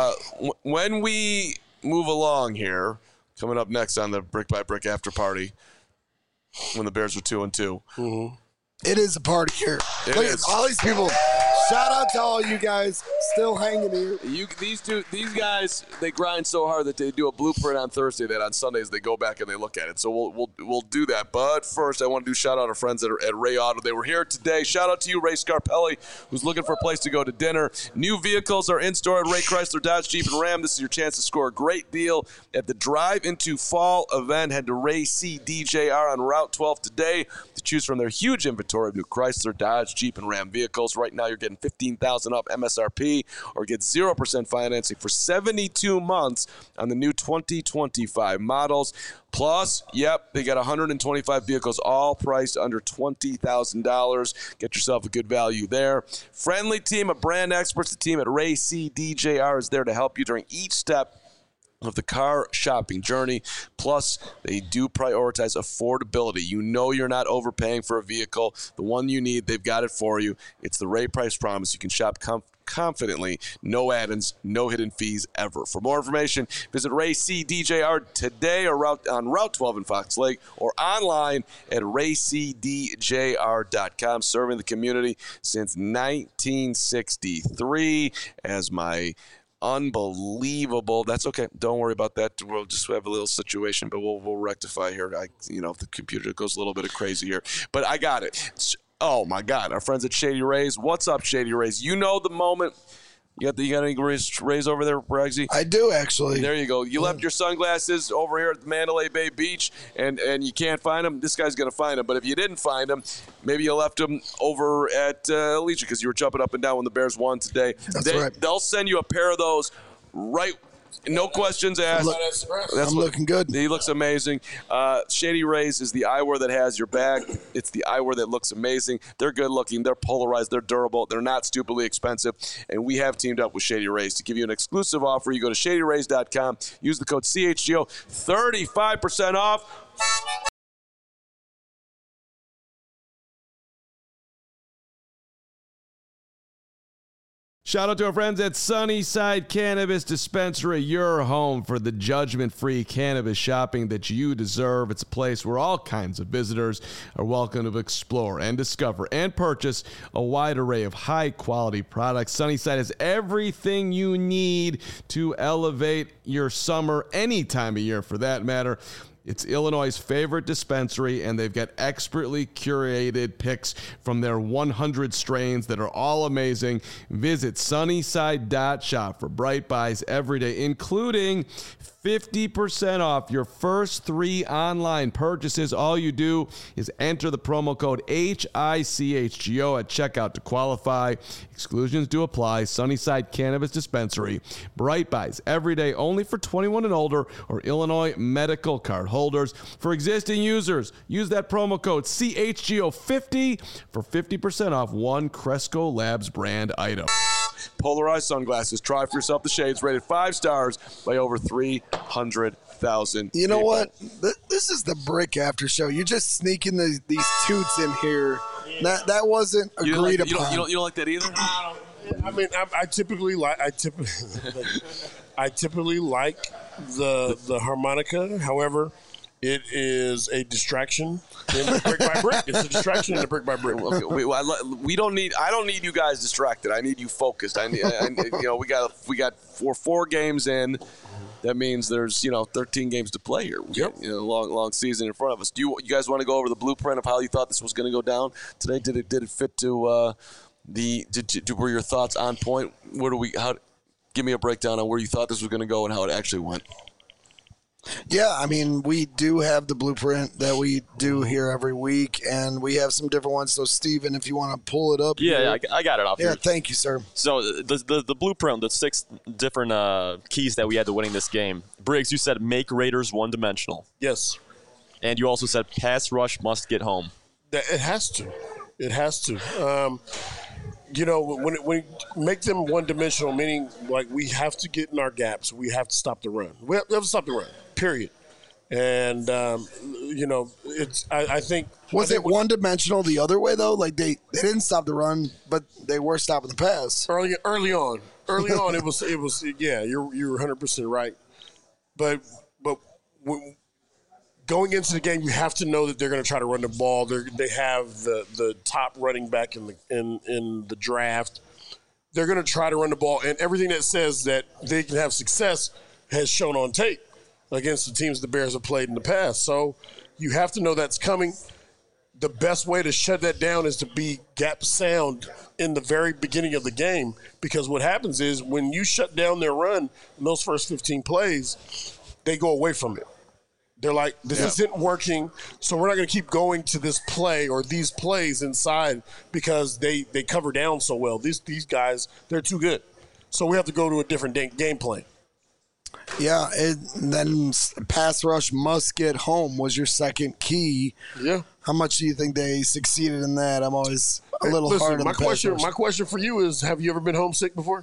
When we move along here, coming up next on the Brick by Brick after party, when the Bears were 2-2. It is a party here. It Look is. at all these people. Shout out to all you guys still hanging here. These guys, they grind so hard that they do a blueprint on Thursday. That on Sundays they go back and they look at it. So we'll do that. But first, I want to do shout out our friends at Ray Auto. They were here today. Shout out to you, Ray Scarpelli, who's looking for a place to go to dinner. New vehicles are in store at Ray Chrysler, Dodge, Jeep, and Ram. This is your chance to score a great deal at the Drive Into Fall event. Head to Ray CDJR on Route 12 today to choose from their huge inventory of new Chrysler, Dodge, Jeep, and Ram vehicles. Right now, you're getting $15,000 off MSRP, or get 0% financing for 72 months on the new 2025 models. Plus, they got 125 vehicles, all priced under $20,000. Get yourself a good value there. Friendly team of brand experts, the team at Ray CDJR is there to help you during each step of the car shopping journey. Plus, they do prioritize affordability. You know you're not overpaying for a vehicle. The one you need, they've got it for you. It's the Ray Price Promise. You can shop confidently. No add-ins, no hidden fees ever. For more information, visit Ray CDJR today or on Route 12 in Fox Lake, or online at raycdjr.com. Serving the community since 1963 as my unbelievable. That's okay. Don't worry about that. We'll just have a little situation, but we'll rectify here. If the computer goes a little bit crazy here, but I got it. Oh my God, our friends at Shady Rays. What's up, Shady Rays? You know the moment. You got any Rays over there, Braggsy? I do, actually. There you go. You left your sunglasses over here at the Mandalay Bay Beach, and you can't find them. This guy's going to find them. But if you didn't find them, maybe you left them over at Legion because you were jumping up and down when the Bears won today. That's right. They'll send you a pair of those right. No questions asked. I'm looking good. He looks amazing. Shady Rays is the eyewear that has your back. It's the eyewear that looks amazing. They're good looking. They're polarized. They're durable. They're not stupidly expensive. And we have teamed up with Shady Rays to give you an exclusive offer. You go to shadyrays.com. Use the code CHGO. 35% off. Shout out to our friends at Sunnyside Cannabis Dispensary, your home for the judgment-free cannabis shopping that you deserve. It's a place where all kinds of visitors are welcome to explore and discover and purchase a wide array of high-quality products. Sunnyside has everything you need to elevate your summer, any time of year for that matter. It's Illinois' favorite dispensary, and they've got expertly curated picks from their 100 strains that are all amazing. Visit sunnyside.shop for bright buys every day, including 50% off your first 3 online purchases. All you do is enter the promo code HICHGO at checkout to qualify. Exclusions do apply. Sunnyside Cannabis Dispensary. Bright buys every day, only for 21 and older or Illinois medical card holders. For existing users, use that promo code CHGO50 for 50% off one Cresco Labs brand item. Polarized sunglasses. Try for yourself the shades. Rated 5 stars by over 300,000 You know people. what? This is the Brick After Show. You're just sneaking these toots in here. That wasn't You don't agreed like, upon. you don't like that either? I mean, I typically like the harmonica. However, it is a distraction in the Brick by Brick. It's a distraction in the Brick by Brick. We don't need. I don't need you guys distracted. I need you focused. I need. We got four games in. That means there's 13 games to play here. Yep. Long season in front of us. Do you guys want to go over the blueprint of how you thought this was going to go down today? Did it fit to were your thoughts on point? Give me a breakdown on where you thought this was going to go and how it actually went. Yeah, I mean, we do have the blueprint that we do here every week, and we have some different ones. So, Steven, if you want to pull it up. Yeah, I got it off here. Yeah, thank you, sir. So the blueprint, the 6 different keys that we had to winning this game. Briggs, you said make Raiders one-dimensional. Yes. And you also said pass rush must get home. It has to. It has to. When we make them one-dimensional, meaning like we have to get in our gaps. We have to stop the run. We have to stop the run, period. And, I think – Was it one-dimensional the other way, though? Like, they didn't stop the run, but they were stopping the pass. Early on, it was yeah, you're 100% right. But going into the game, you have to know that they're going to try to run the ball. They have the top running back in the draft. They're going to try to run the ball, and everything that says that they can have success has shown on tape against the teams the Bears have played in the past. So you have to know that's coming. The best way to shut that down is to be gap sound in the very beginning of the game, because what happens is when you shut down their run in those first 15 plays, they go away from it. They're like, this isn't working, so we're not going to keep going to this play or these plays inside because they cover down so well. These guys, they're too good. So we have to go to a different game plan. Yeah, and then pass rush must get home was your second key. Yeah. How much do you think they succeeded in that? I'm always a little hard on the pass rush. My question for you is, have you ever been homesick before?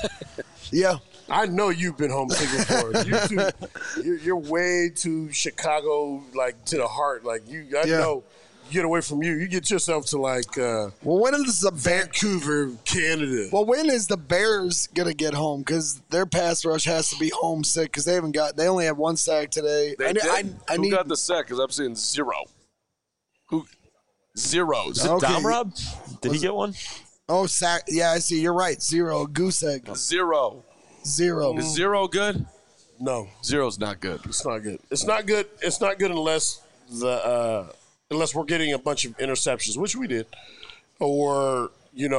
Yeah. I know you've been homesick before. You're way too Chicago, like, to the heart. Like, I know. Get away from you. You get yourself to when is the Vancouver, Canada. Well, when is the Bears gonna get home? Because their pass rush has to be homesick because they only have 1 sack today. Who got the sack? Because I'm seeing 0. Who? 0. Is it Dom Rob? Did he get one? Oh, sack. Yeah, I see. You're right. 0. Goose egg. 0. 0. Is 0 good? No. 0's not good. It's not good. It's not good. It's not good unless unless we're getting a bunch of interceptions, which we did, or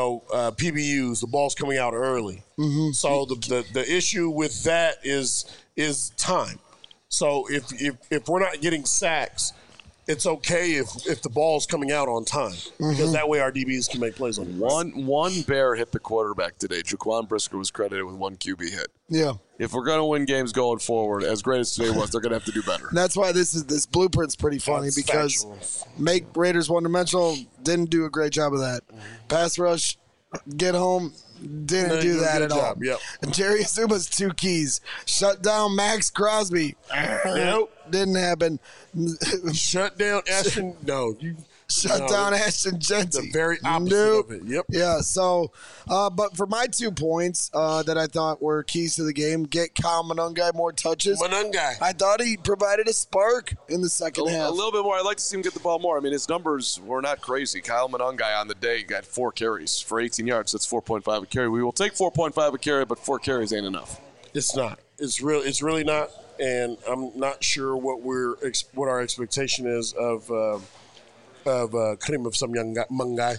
PBUs, the ball's coming out early. Mm-hmm. So the issue with that is time. So if we're not getting sacks, it's okay if the ball's coming out on time, because that way our DBs can make plays on it. One Bear hit the quarterback today. Jaquan Brisker was credited with 1 QB hit. Yeah. If we're going to win games going forward, as great as today was, they're going to have to do better. That's why this blueprint's pretty funny, because make Raiders one-dimensional, didn't do a great job of that. Pass rush, get home, didn't do that at all. Yep. And Jerry Azuma's 2 keys. Shut down Max Crosby. Yep. didn't happen. Shut down Ashton. No, you Shut down Ashton Genty. The very opposite of it. Yep. Yeah. So, but for my 2 points that I thought were keys to the game, get Kyle Monangai more touches. Monangai. I thought he provided a spark in the second half. A little bit more. I'd like to see him get the ball more. I mean, his numbers were not crazy. Kyle Monangai on the day got 4 carries for 18 yards. That's 4.5 a carry. We will take 4.5 a carry, but 4 carries ain't enough. It's not. It's really not. And I'm not sure what our expectation is of Kareem of some young guy.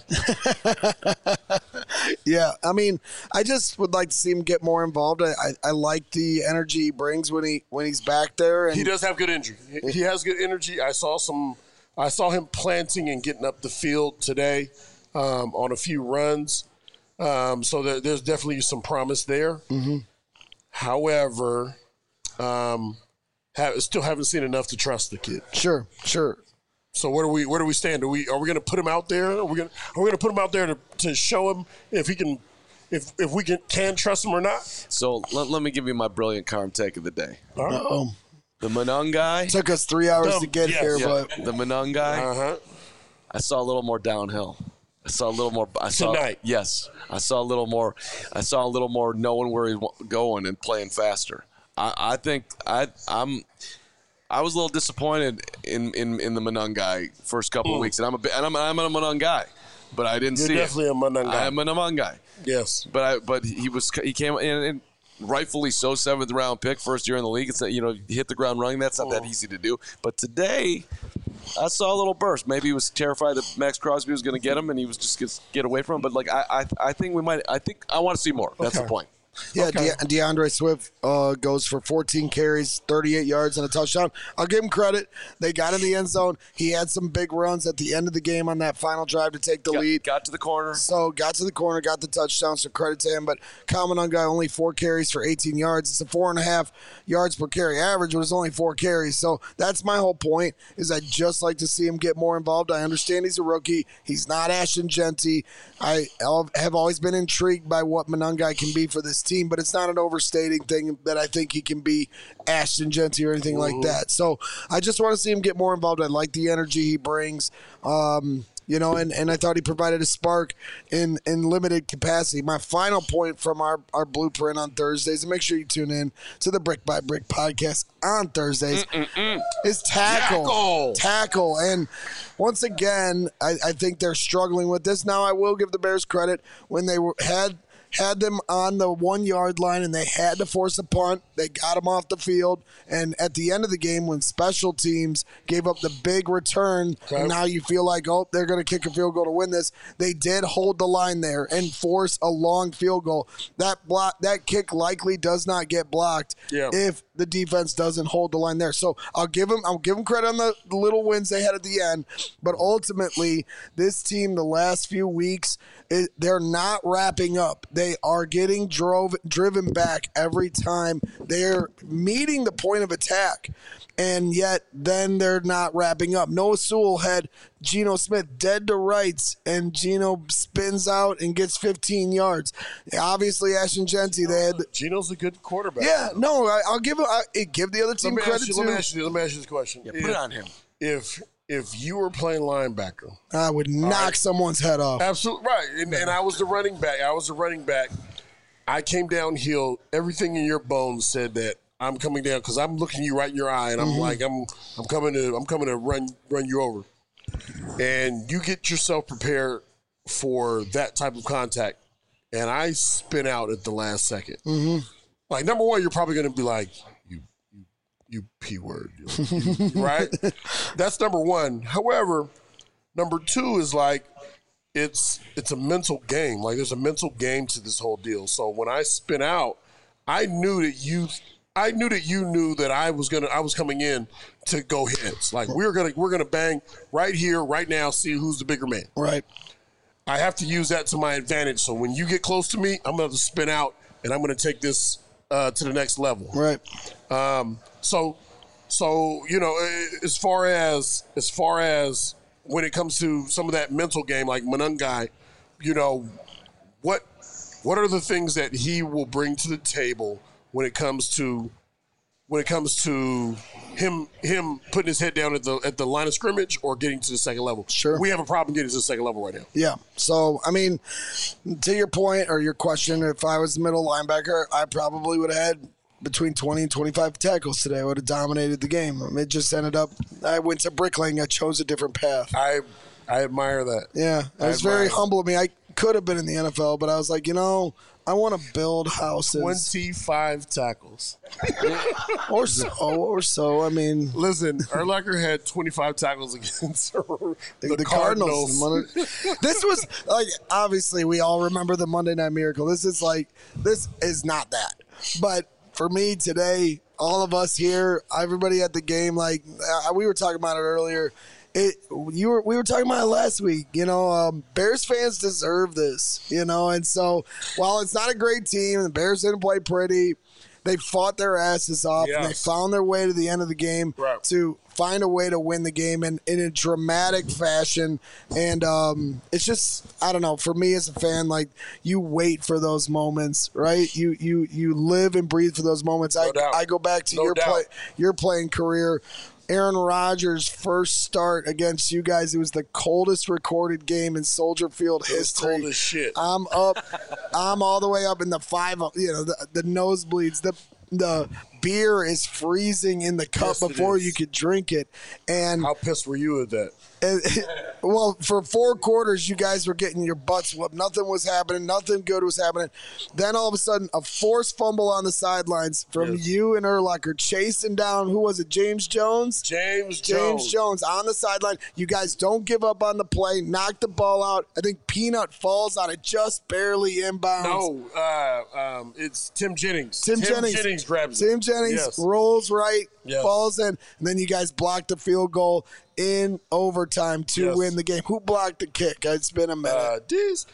Yeah, I mean, I just would like to see him get more involved. I like the energy he brings when he's back there. And he does have good energy. He has good energy. I saw him planting and getting up the field today on a few runs. So there's definitely some promise there. Mm-hmm. However, still haven't seen enough to trust the kid. Sure. So where do we stand? Are we going to put him out there? Are we going to put him out there to show him if he can, if we can trust him or not? So let me give you my brilliant calm take of the day. Uh-oh. The Monangai. Took us 3 hours to get here, but the Monangai. I saw a little more downhill. I saw a little more. Tonight. Yes, I saw a little more. I saw a little more knowing where he's going and playing faster. I think I was a little disappointed in the Monangai first couple of weeks, and I'm a Monangai, but I didn't see it. You're definitely a Monangai. I'm a Monangai. Yes, but he came in and rightfully so, 7th round pick, first year in the league. It's hit the ground running. That's not that easy to do. But today, I saw a little burst. Maybe he was terrified that Max Crosby was going to get him, and he was just going to get away from him. But I think we might. I want to see more. That's the point. Yeah, okay. DeAndre Swift goes for 14 carries, 38 yards, and a touchdown. I'll give him credit. They got in the end zone. He had some big runs at the end of the game on that final drive to take the lead. Got to the corner. So got to the corner, got the touchdown, so credit to him. But Kyle Monangai only 4 carries for 18 yards. It's a 4.5 yards per carry average, but it's only 4 carries. So that's my whole point, is I'd just like to see him get more involved. I understand he's a rookie. He's not Ashton Genty. I have always been intrigued by what Monangai can be for this team, but it's not an overstating thing that I think he can be Ashton Genty or anything like that. So I just want to see him get more involved. I like the energy he brings. And I thought he provided a spark in limited capacity. My final point from our blueprint on Thursdays, and make sure you tune in to the Brick by Brick podcast on Thursdays, is tackle. And once again, I think they're struggling with this. Now, I will give the Bears credit when they had them on the 1 yard line and they had to force a punt. They got them off the field. And at the end of the game, when special teams gave up the big return, and now you feel like, they're going to kick a field goal to win this, they did hold the line there and force a long field goal. That kick likely does not get blocked if the defense doesn't hold the line there. So I'll give them credit on the little wins they had at the end. But ultimately, this team, the last few weeks, they're not wrapping up. They are getting driven back every time. They're meeting the point of attack, and yet then they're not wrapping up. Noah Sewell had Geno Smith dead to rights, and Geno spins out and gets 15 yards. Obviously, Ashton Genty, they had. Geno's a good quarterback. Yeah, no, I'll give the other team credit too. Let me ask you this question. Yeah, put it on him. If you were playing linebacker, I would knock someone's head off. Absolutely right. And I was the running back. I came downhill. Everything in your bones said that I'm coming down because I'm looking you right in your eye, and I'm like, I'm coming to run you over. And you get yourself prepared for that type of contact, and I spin out at the last second. Like, number one, you're probably going to be like, you P word, right? That's number one. However, number two is like, it's a mental game. Like, there's a mental game to this whole deal. So when I spin out, I knew that you knew that I was coming in to go heads. Like, we're gonna bang right here, right now, see who's the bigger man. Right. I have to use that to my advantage. So when you get close to me, I'm gonna spin out and I'm gonna take this to the next level. Right. So as far as when it comes to some of that mental game, like Monangai, what are the things that he will bring to the table when it comes to when it comes to him putting his head down at the line of scrimmage or getting to the second level. Sure. We have a problem getting to the second level right now. Yeah. So, I mean, to your point or your question, if I was the middle linebacker, I probably would have had between 20 and 25 tackles today. I would have dominated the game. It just ended up, I went to bricklaying. I chose a different path. I admire that. Yeah. It was very humble of me. I could have been in the NFL, but I was like, I want to build houses. 25 tackles. or so. I mean, listen, Urlacher had 25 tackles against the Cardinals. This was like, obviously, we all remember the Monday Night Miracle. This is not that. But for me today, all of us here, everybody at the game, like we were talking about it earlier. We were talking about it last week. Bears fans deserve this. And so while it's not a great team, the Bears didn't play pretty. They fought their asses off, and they found their way to the end of the game to find a way to win the game in a dramatic fashion. And it's just, I don't know, for me as a fan, like, you wait for those moments, right? You live and breathe for those moments. I go back to your playing career. Aaron Rodgers' first start against you guys, it was the coldest recorded game in Soldier Field history. Cold as shit. I'm all the way up in the the nosebleeds. The beer is freezing in the cup before you could drink it. And how pissed were you at that? Well, for 4 quarters, you guys were getting your butts whooped. Nothing was happening. Nothing good was happening. Then all of a sudden, a forced fumble on the sidelines from you and Urlacher chasing down, who was it, James Jones? James Jones on the sideline. You guys don't give up on the play. Knock the ball out. I think Peanut falls on it just barely inbounds. No, it's Tim Jennings. Tim Jennings grabs it. Tim Jennings rolls right, falls in, and then you guys block the field goal in overtime to win the game. Who blocked the kick? It's been a minute.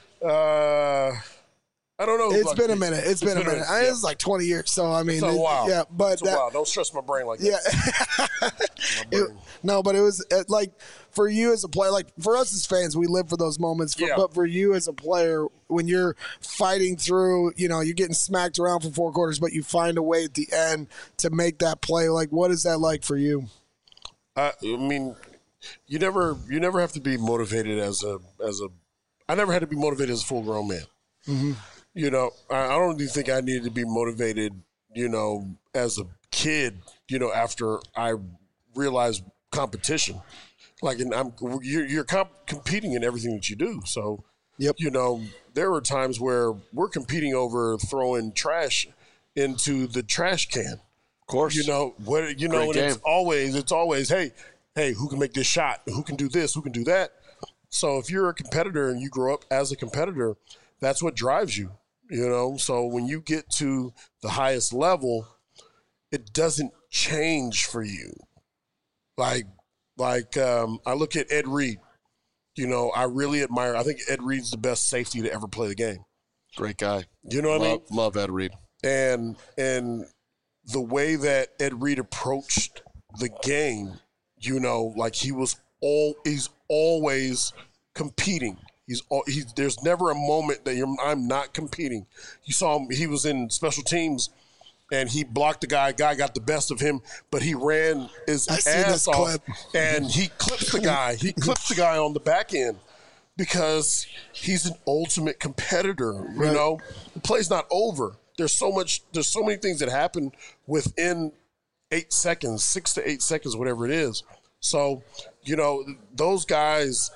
I don't know. It's been a minute. It's been a minute. It was like 20 years. So, I mean, it's a while. Yeah, but it's a while. Don't stress my brain like that. No, but it was like for you as a player, like for us as fans, we live for those moments. But for you as a player, when you're fighting through, you're getting smacked around for 4 quarters, but you find a way at the end to make that play. Like, what is that like for you? I mean, you never have to be motivated as a. I never had to be motivated as a full grown man. Mm-hmm. I don't even think I needed to be motivated, as a kid, after I realized competition. Like, and you're competing in everything that you do. So, there were times where we're competing over throwing trash into the trash can. Of course. And it's always, hey, who can make this shot? Who can do this? Who can do that? So if you're a competitor and you grow up as a competitor, that's what drives you, So when you get to the highest level, it doesn't change for you. Like I look at Ed Reed. I really admire. I think Ed Reed's the best safety to ever play the game. Great guy. You know what I mean? Love Ed Reed. And the way that Ed Reed approached the game, like he's always competing. There's never a moment that I'm not competing. You saw him, he was in special teams and he blocked the guy. Guy got the best of him, but he ran his ass off and he clipped the guy. He clipped the guy on the back end because he's an ultimate competitor. The play's not over. There's so many things that happen within 8 seconds, 6 to 8 seconds, whatever it is. So, those guys,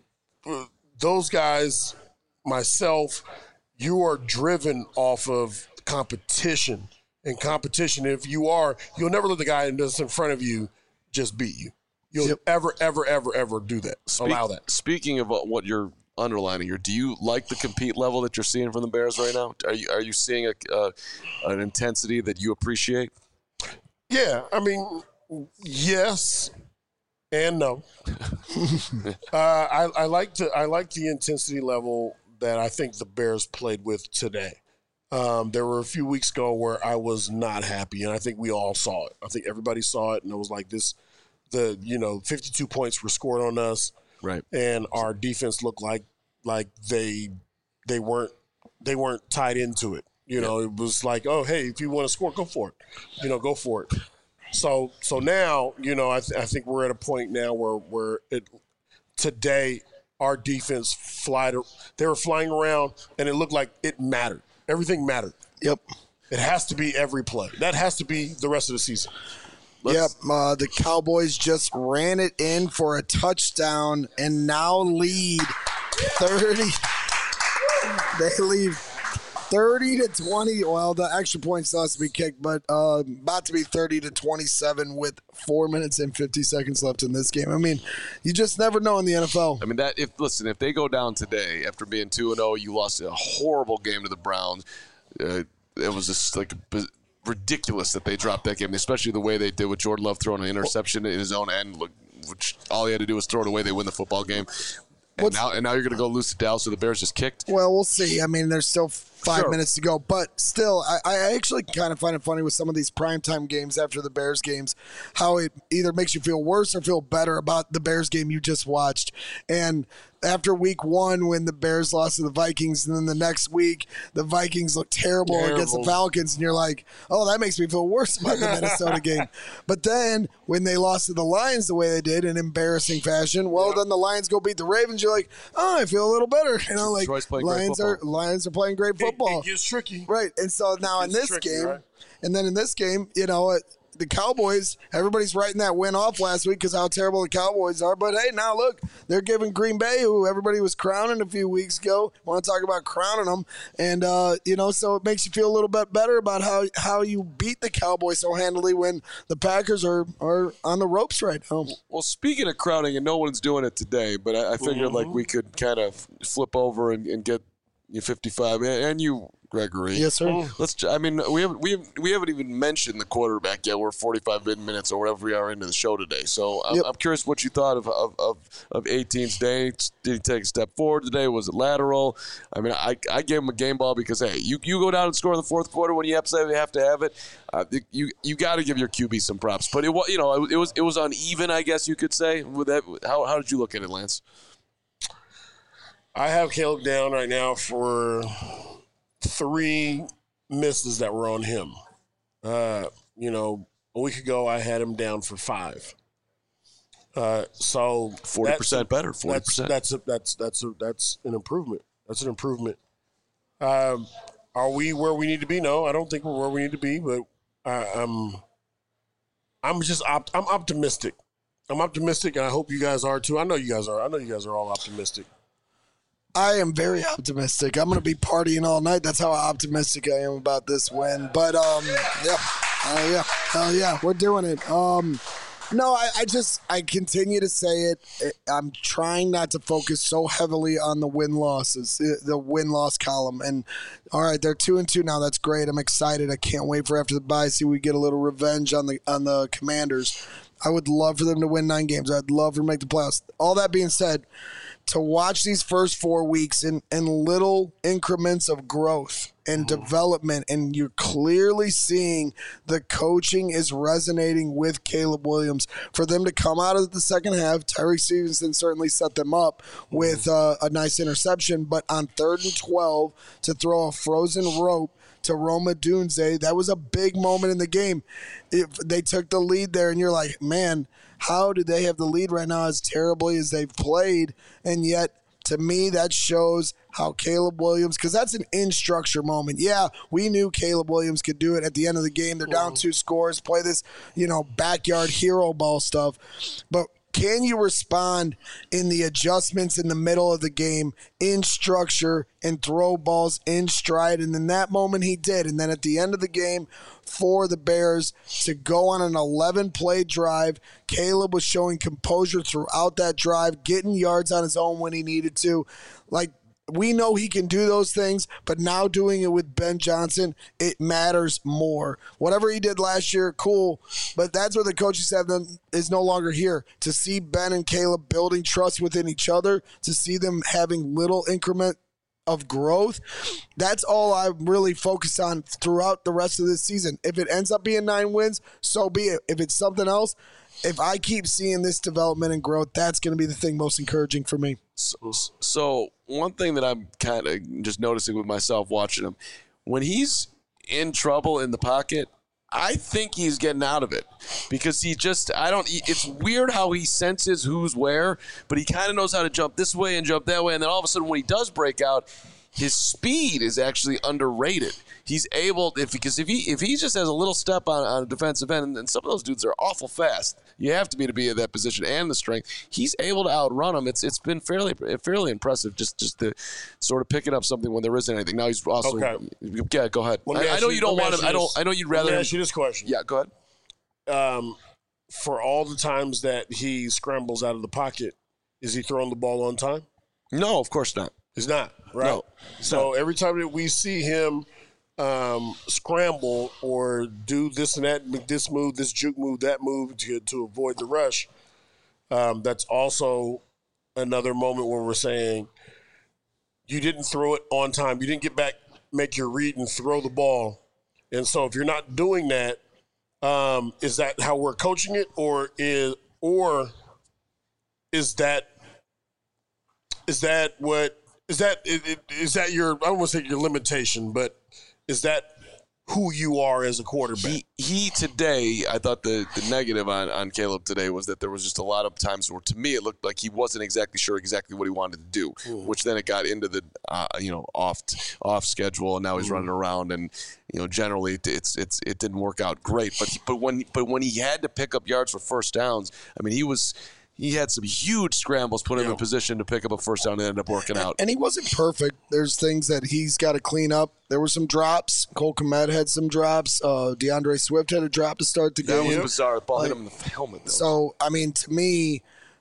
myself, you are driven off of competition. And competition, if you'll never let the guy that's in front of you just beat you. You'll ever do that. Allow that. Speaking of what you're underlining here, do you like the compete level that you're seeing from the Bears right now? Are you seeing an intensity that you appreciate? Yeah, I mean, yes and no. I like the intensity level that I think the Bears played with today. There were a few weeks ago where I was not happy, and I think we all saw it. I think everybody saw it, and it was like 52 points were scored on us, right? And our defense looked like they weren't tied into it. You know, it was like, oh, hey, if you want to score, go for it. You know, go for it. So now, you know, I think we're at a point now where today our defense they were flying around, and it looked like it mattered. Everything mattered. Yep. It has to be every play. That has to be the rest of the season. The Cowboys just ran it in for a touchdown and now lead 30. They lead 30-20. Well, the extra point still has to be kicked, but about to be 30-27 with 4 minutes and 50 seconds left in this game. I mean, you just never know in the NFL. I mean, if they go down today after being 2-0, you lost a horrible game to the Browns. It was just like ridiculous that they dropped that game, especially the way they did with Jordan Love throwing an interception in his own end, which all he had to do was throw it away. They win the football game. And now you're going to go lose to Dallas, so the Bears just kicked? Well, we'll see. I mean, there's still 5 minutes to go. But still, I actually kind of find it funny with some of these primetime games after the Bears games, how it either makes you feel worse or feel better about the Bears game you just watched. And after week 1, when the Bears lost to the Vikings, and then the next week, the Vikings looked terrible against the Falcons, and you're like, oh, that makes me feel worse about the Minnesota game. But then when they lost to the Lions the way they did in embarrassing fashion, then the Lions go beat the Ravens, you're like, oh, I feel a little better. You know, like Lions are playing great football. It gets tricky. Right. And so now in this game, right? And then in this game, you know, the Cowboys, everybody's writing that win off last week because how terrible the Cowboys are. But, hey, now look, they're giving Green Bay, who everybody was crowning a few weeks ago, want to talk about crowning them. And, you know, so it makes you feel a little bit better about how you beat the Cowboys so handily when the Packers are on the ropes right now. Well, speaking of crowning, and no one's doing it today, but I figured like we could kind of flip over and get you 55 and you, Gregory. Yes, sir. We haven't even mentioned the quarterback yet. We're 45 minutes or whatever we are into the show today. So I'm curious what you thought of 18's day. Did he take a step forward today? Was it lateral? I mean, I gave him a game ball because hey, you go down and score in the fourth quarter when you absolutely have to have it. You got to give your QB some props. But it was uneven, I guess you could say. With that, how did you look at it, Lance? I have Caleb down right now for 3 misses that were on him. You know, a week ago I had him down for 5. So 40% better. 40%. That's an improvement. That's an improvement. Are we where we need to be? No, I don't think we're where we need to be. But I'm optimistic. I'm optimistic, and I hope you guys are too. I know you guys are. I know you guys are all optimistic. I am very optimistic. I'm going to be partying all night. That's how optimistic I am about this win. But, hell yeah, we're doing it. No, I continue to say it. I'm trying not to focus so heavily on the win-losses, the win-loss column. And, all right, they're 2-2 now. That's great. I'm excited. I can't wait for after the bye, see we get a little revenge on the Commanders. I would love for them to win 9 games. I'd love for them to make the playoffs. All that being said, to watch these first 4 weeks in little increments of growth and development, and you're clearly seeing the coaching is resonating with Caleb Williams. For them to come out of the second half, Tyreek Stevenson certainly set them up with a nice interception, but on 3rd and 12 to throw a frozen rope to Roma Dunze, that was a big moment in the game. They took the lead there, and you're like, man, how do they have the lead right now as terribly as they've played? And yet, to me, that shows how Caleb Williams, because that's an in-structure moment. Yeah, we knew Caleb Williams could do it at the end of the game. They're down 2 scores, play this, backyard hero ball stuff. But can you respond in the adjustments in the middle of the game, in structure, and throw balls in stride? And in that moment, he did. And then at the end of the game, for the Bears to go on an 11-play drive, Caleb was showing composure throughout that drive, getting yards on his own when he needed to. Like, we know he can do those things, but now doing it with Ben Johnson, it matters more. Whatever he did last year, cool, but that's where the coaching staff is no longer here. To see Ben and Caleb building trust within each other, to see them having little increment of growth, that's all I really focus on throughout the rest of this season. If it ends up being 9 wins, so be it. If it's something else, if I keep seeing this development and growth, that's going to be the thing most encouraging for me. So one thing that I'm kind of just noticing with myself watching him, when he's in trouble in the pocket, I think he's getting out of it because it's weird how he senses who's where, but he kind of knows how to jump this way and jump that way. And then all of a sudden when he does break out, his speed is actually underrated. He's able, because if he just has a little step on a defensive end, and some of those dudes are awful fast. You have to be in that position and the strength. He's able to outrun them. It's been fairly impressive just to sort of picking up something when there isn't anything. Now he's also yeah. Go ahead. I know you don't want him. I know you'd rather. Let me ask you this question. Yeah, go ahead. For all the times that he scrambles out of the pocket, is he throwing the ball on time? No, of course not. He's not. Right. No, so every time that we see him scramble or do this and that, make this move, this juke move, that move to avoid the rush, that's also another moment where we're saying you didn't throw it on time. You didn't get back, make your read, and throw the ball. And so if you're not doing that, is that how we're coaching it, or is that your, I don't want to say your limitation, but is that who you are as a quarterback? He today, I thought the negative on Caleb today was that there was just a lot of times where, to me, it looked like he wasn't exactly sure what he wanted to do, which then it got into the off schedule, and now he's running around, and generally it didn't work out great. But when he had to pick up yards for first downs, I mean, he had some huge scrambles, put him in position to pick up a first down and ended up working out. And he wasn't perfect. There's things that he's got to clean up. There were some drops. Cole Kmet had some drops. DeAndre Swift had a drop to start the game. That was bizarre. The ball hit him in the helmet, though. So, I mean, to me,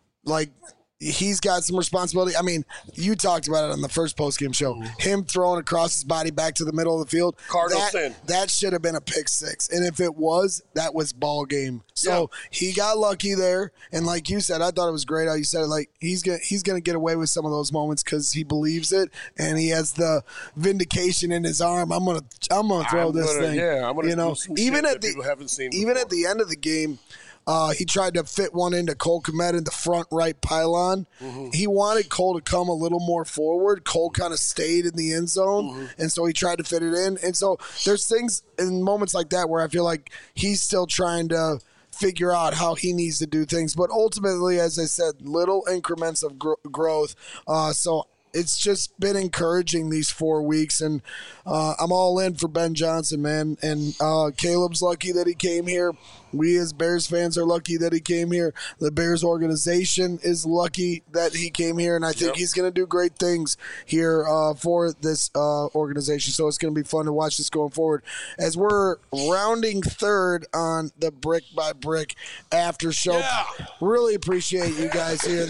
he's got some responsibility. I mean, you talked about it on the first postgame show. Him throwing across his body back to the middle of the field. That should have been a pick six. And if it was, that was ball game. So he got lucky there. And like you said, I thought it was great how you said it. He's gonna get away with some of those moments because he believes it and he has the vindication in his arm. I'm gonna throw this thing. Yeah, I'm gonna do some even shit at that people haven't seen even before. at the end of the game. He tried to fit one into Cole Kmet in the front right pylon. He wanted Cole to come a little more forward. Cole kind of stayed in the end zone, and so he tried to fit it in. And so there's things in moments like that where I feel like he's still trying to figure out how he needs to do things. But ultimately, as I said, little increments of growth. So it's just been encouraging these 4 weeks, and I'm all in for Ben Johnson, man. And Caleb's lucky that he came here. We as Bears fans are lucky that he came here. The Bears organization is lucky that he came here, and I think he's going to do great things here for this organization. So it's going to be fun to watch this going forward. As we're rounding third on the Brick by Brick after show, really appreciate you guys here.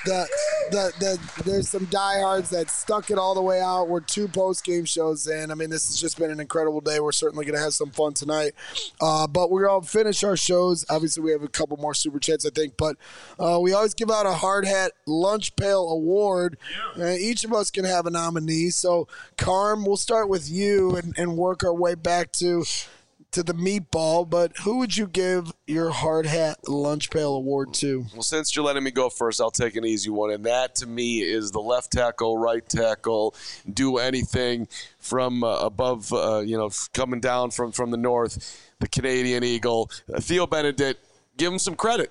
There's some diehards that stuck it all the way out. We're 2 post-game shows in. I mean, this has just been an incredible day. We're certainly going to have some fun tonight. But we're going to finish our shows. Obviously, we have a couple more super chats, I think. But we always give out a Hard Hat Lunch Pail Award. Each of us can have a nominee. So, Carm, we'll start with you and work our way back to the meatball. But who would you give your Hard Hat Lunch Pail Award to? Well, since you're letting me go first, I'll take an easy one. And that, to me, is the left tackle, right tackle, do anything from above, coming down from the north, the Canadian Eagle. Theo Benedict, give him some credit.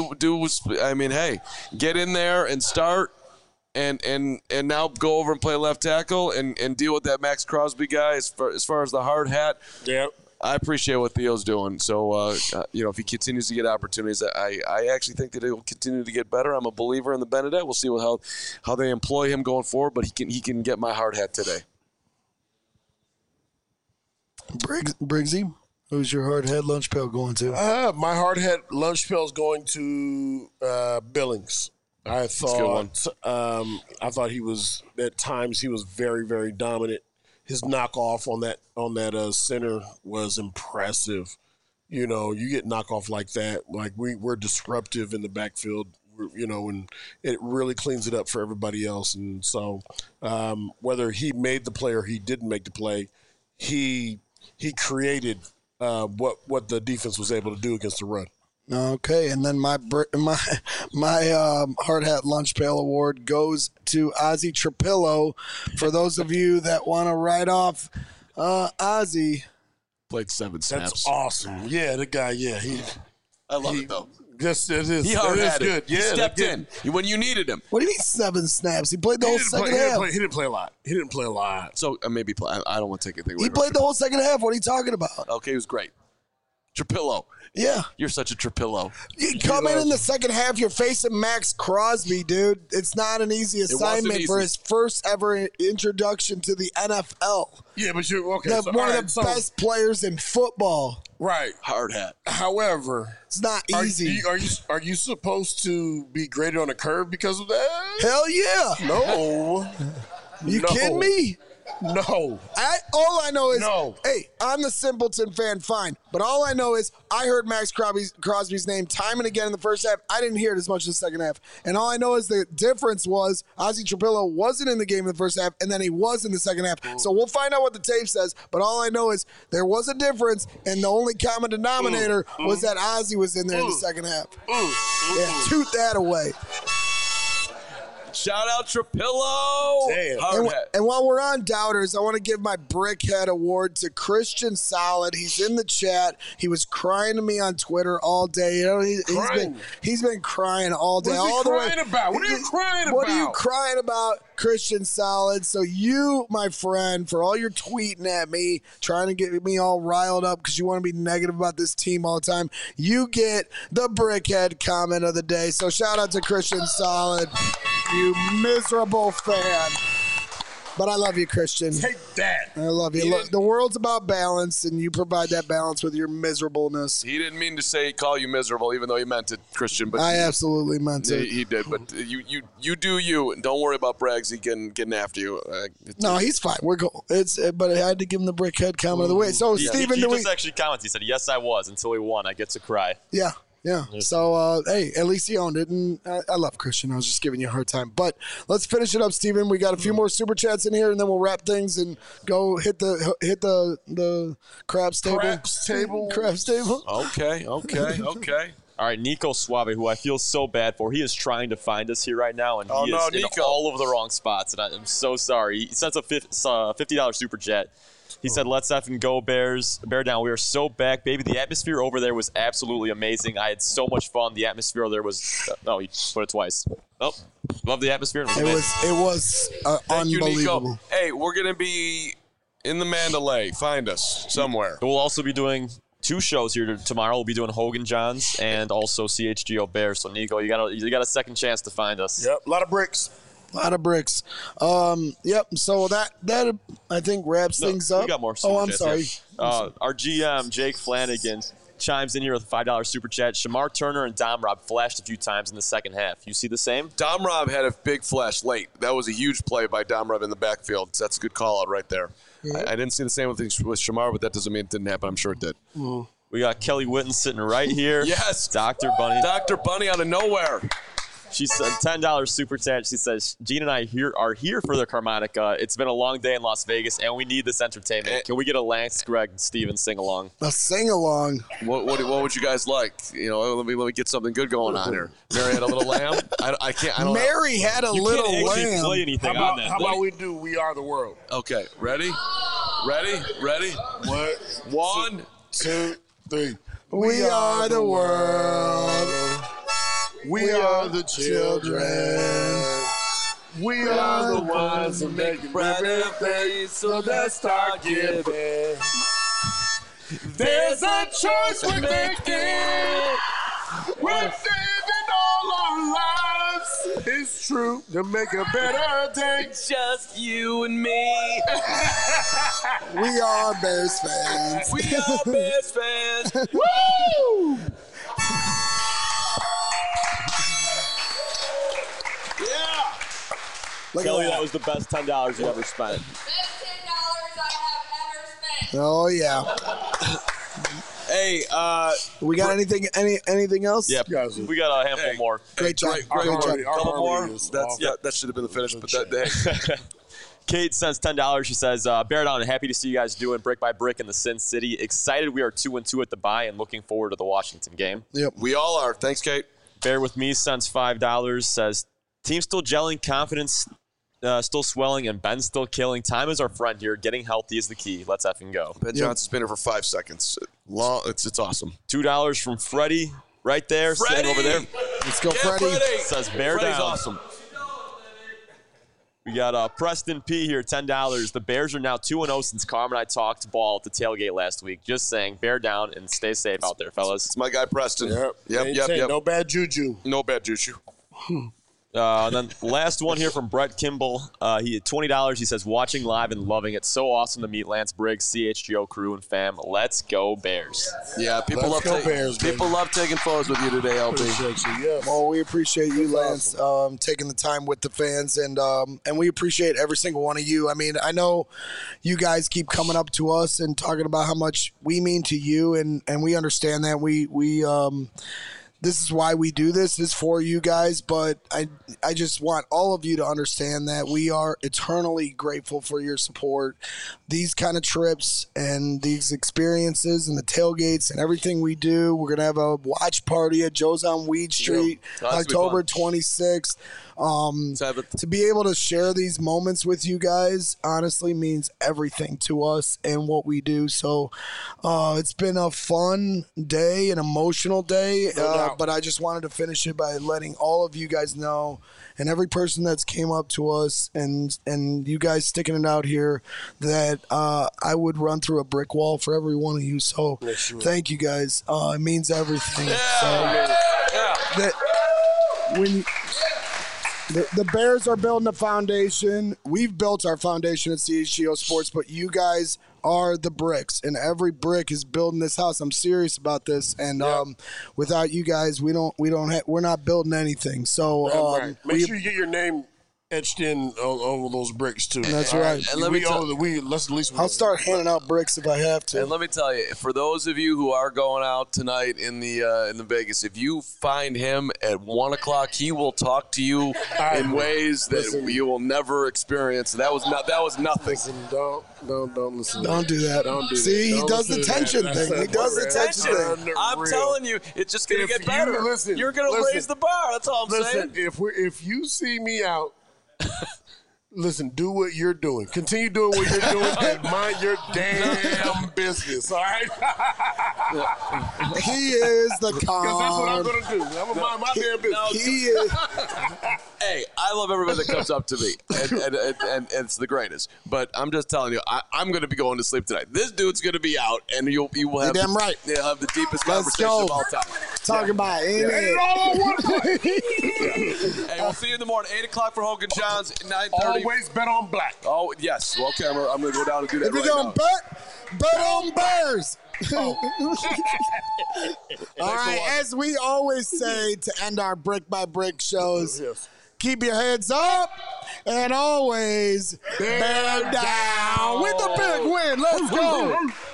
Hey, get in there and start. And now go over and play left tackle and deal with that Max Crosby guy as far as the hard hat. Yeah. I appreciate what Theo's doing. So, if he continues to get opportunities, I actually think that he'll continue to get better. I'm a believer in the Benedict. We'll see how they employ him going forward, but he can get my hard hat today. Briggsy, who's your hard hat lunch pail going to? My hard hat lunch pail is going to Billings. I thought he was, at times, he was very, very dominant. His knockoff on that center was impressive. You get knockoff like that. Like we're disruptive in the backfield. And it really cleans it up for everybody else. And so, whether he made the play or he didn't make the play, he created what the defense was able to do against the run. Okay, and then my hard hat lunch pail award goes to Ozzie Trapillo. For those of you that want to write off Ozzy. Played 7 snaps. That's awesome. Yeah, the guy. Yeah, I love it though. Yes, it is. He hard It is had good. it. Yeah, He stepped that- in when you needed him. What do you mean 7 snaps? He played the He whole didn't second play- half. He didn't play a lot. He didn't play a lot. So maybe play. I don't want to take anything away. He from played the whole second half. What are you talking about? Okay, he was great. Trapillo. Yeah. You're such a Trapillo. You come in the second half, you're facing Max Crosby, dude. It's not an easy wasn't assignment for easy. his first ever introduction to the NFL. Yeah, but you're okay. The- so, one all of right, the so- best players in football. Right. Hard hat. However, It's not are easy. are you supposed to be graded on a curve because of that? Hell yeah. No. You No. kidding me? No. All I know is, No. hey, I'm the Simpleton fan, fine. But all I know is I heard Max Crosby's name time and again in the first half. I didn't hear it as much in the second half. And all I know is the difference was Ozzy Trapillo wasn't in the game in the first half, and then he was in the second half. So we'll find out what the tape says. But all I know is there was a difference, and the only common denominator was that Ozzy was in there in the second half. Yeah, toot that away. Shout out Trapillo. Damn. Hard And, hat. and while we're on doubters, I want to give my Brickhead Award to Christian Solid. He's in the chat. He was crying to me on Twitter all day. You know, he's been crying all day. What is he all the crying way. about? What are you crying What are you about? crying about, Christian Solid? So you, my friend, for all your tweeting at me, trying to get me all riled up because you want to be negative about this team all the time, you get the Brickhead comment of the day. So shout out to Christian Solid, you miserable fan. But I love you, Christian. Take that. I love you. Look, the world's about balance, and you provide that balance with your miserableness. He didn't mean to say call you miserable, even though he meant it, Christian. But I absolutely meant it. he did. But you do you, and don't worry about Braggsy getting after you. No, he's fine. We're cool. But I had to give him the Brickhead comment of the way. So, He Steven, just actually commented. He said, "Yes, I was until he won. I get to cry." Yeah. So, hey, at least he owned it, and I love Christian. I was just giving you a hard time. But let's finish it up, Steven. We got a few more super chats in here, and then we'll wrap things and go hit the craps table. Craps table. Okay. All right, Nico Suave, who I feel so bad for, he is trying to find us here right now, and he is in Nico. all over the wrong spots, and I'm so sorry. He sent a $50 super chat. He said, "Let's effing go Bears. Bear down. We are so back, baby. The atmosphere over there was absolutely amazing. I had so much fun. The atmosphere there was he put it twice. Oh, love the atmosphere. It was Thank you, unbelievable. Nico. Hey, we're gonna be in the Mandalay. Find us somewhere. We'll also be doing 2 shows here tomorrow. We'll be doing Hogan Johns and also CHGO Bears. So Nico, you got a second chance to find us. Yep, a lot of bricks. A lot of bricks. Yep. So that I think wraps things up. We got more. Oh, I'm super sorry. chats, yeah. Our GM Jake Flanagan chimes in here with a $5 super chat. Shamar Turner and Dom Rob flashed a few times in the second half. You see the same? Dom Rob had a big flash late. That was a huge play by Dom Rob in the backfield. That's a good call out right there. I didn't see the same with Shamar, but that doesn't mean it didn't happen. I'm sure it did. We got Kelly Witten sitting right here. Yes. Dr. Bunny. Dr. Bunny out of nowhere. She said $10 super chat. She says, Gene and I are here for the Carmonica. It's been a long day in Las Vegas, and we need this entertainment. Can we get a Lance, Greg, and Steven sing-along? A sing-along. What would you guys like? You know, let me get something good going on here. Mary had a little lamb. I can't. I don't know. Mary had a little can't actually lamb. play anything How on that. about we do We Are the World? Okay, ready? What? 1, 2, 3. We are the world. We are the children. We are the ones who make it brighter days, so let's start giving. There's a choice we're making. We're saving all our lives. It's true to make a better day. just you and me. We are Bears fans. We are Bears fans. Woo! Yeah. Look Kelly, at that was the best $10 you ever spent. Best $10 I have ever spent. Oh yeah. Hey, We got anything else? Yep. Guys, We got a handful more. Great job. Great Great job. couple more. That's That should have been the finish, but that Kate sends $10. She says, Bear down, happy to see you guys doing brick by brick in the Sin City. Excited we are 2-2 at the bye and looking forward to the Washington game. Yep. we all are. Thanks, Kate. Bear with me sends $5, says, team still gelling, confidence still swelling and Ben's still killing. Time is our friend here. Getting healthy is the key. Let's effing go. Ben Johnson's been here for 5 seconds. It's awesome. $2 from Freddie right there, sitting over there. Let's go, Freddie. Says bear Freddie's down. awesome. We got Preston P here, $10. The Bears are now 2-0 since Carm and I talked ball at the tailgate last week. Just saying, bear down and stay safe out there, fellas. It's my guy Preston. Yep. No bad juju. No bad juju. And then last one here from Brett Kimball. He had $20. He says, watching live and loving it. So awesome to meet Lance Briggs, CHGO crew, and fam. Let's go Bears. Yeah, people love taking photos with you today, LB. Yes. Well, we appreciate you, Lance, taking the time with the fans, and we appreciate every single one of you. I mean, I know you guys keep coming up to us and talking about how much we mean to you, and we understand that. We this is why we do this, is for you guys, but I just want all of you to understand that we are eternally grateful for your support. These kind of trips and these experiences and the tailgates and everything we do, we're going to have a watch party at Joe's on Weed Street, October 26th. To be able to share these moments with you guys honestly means everything to us and what we do. So it's been a fun day, an emotional day, but I just wanted to finish it by letting all of you guys know, and every person that's came up to us and you guys sticking it out here, that I would run through a brick wall for every one of you. So thank you guys. It means everything. The Bears are building a foundation. We've built our foundation at CHGO Sports, but you guys are the bricks, and every brick is building this house. I'm serious about this, and without you guys, we're not building anything. So make sure you get your name etched in over those bricks too. That's right. And I'll start handing out bricks if I have to. And let me tell you, for those of you who are going out tonight in the Vegas, if you find him at 1:00, he will talk to you in ways that you will never experience. That was nothing. Listen, don't listen. Don't do that. Don't do that. See, he does the tension thing. He does the tension thing. I'm telling you, it's just going to get better. You're going to raise the bar. That's all I'm saying. If you see me out, listen, do what you're doing. Continue doing what you're doing and mind your damn business, all right? He is the con. Because that's what I'm going to do. I'm going to mind my damn business. He is. Hey, I love everybody that comes up to me, and it's the greatest. But I'm just telling you, I'm going to be going to sleep tonight. This dude's going to be out, and you will have. You're damn right. You'll have the deepest Let's conversation go. of all time. Talking about it. Hey, we'll see you in the morning. 8:00 for Hogan Johns. 9:30. Always bet on black. Oh yes. Well, okay, I'm going to go down and do that If you're right going to bet on Bears. All right, as we always say to end our brick by brick shows, keep your heads up and always bear down with a big win. Let's go.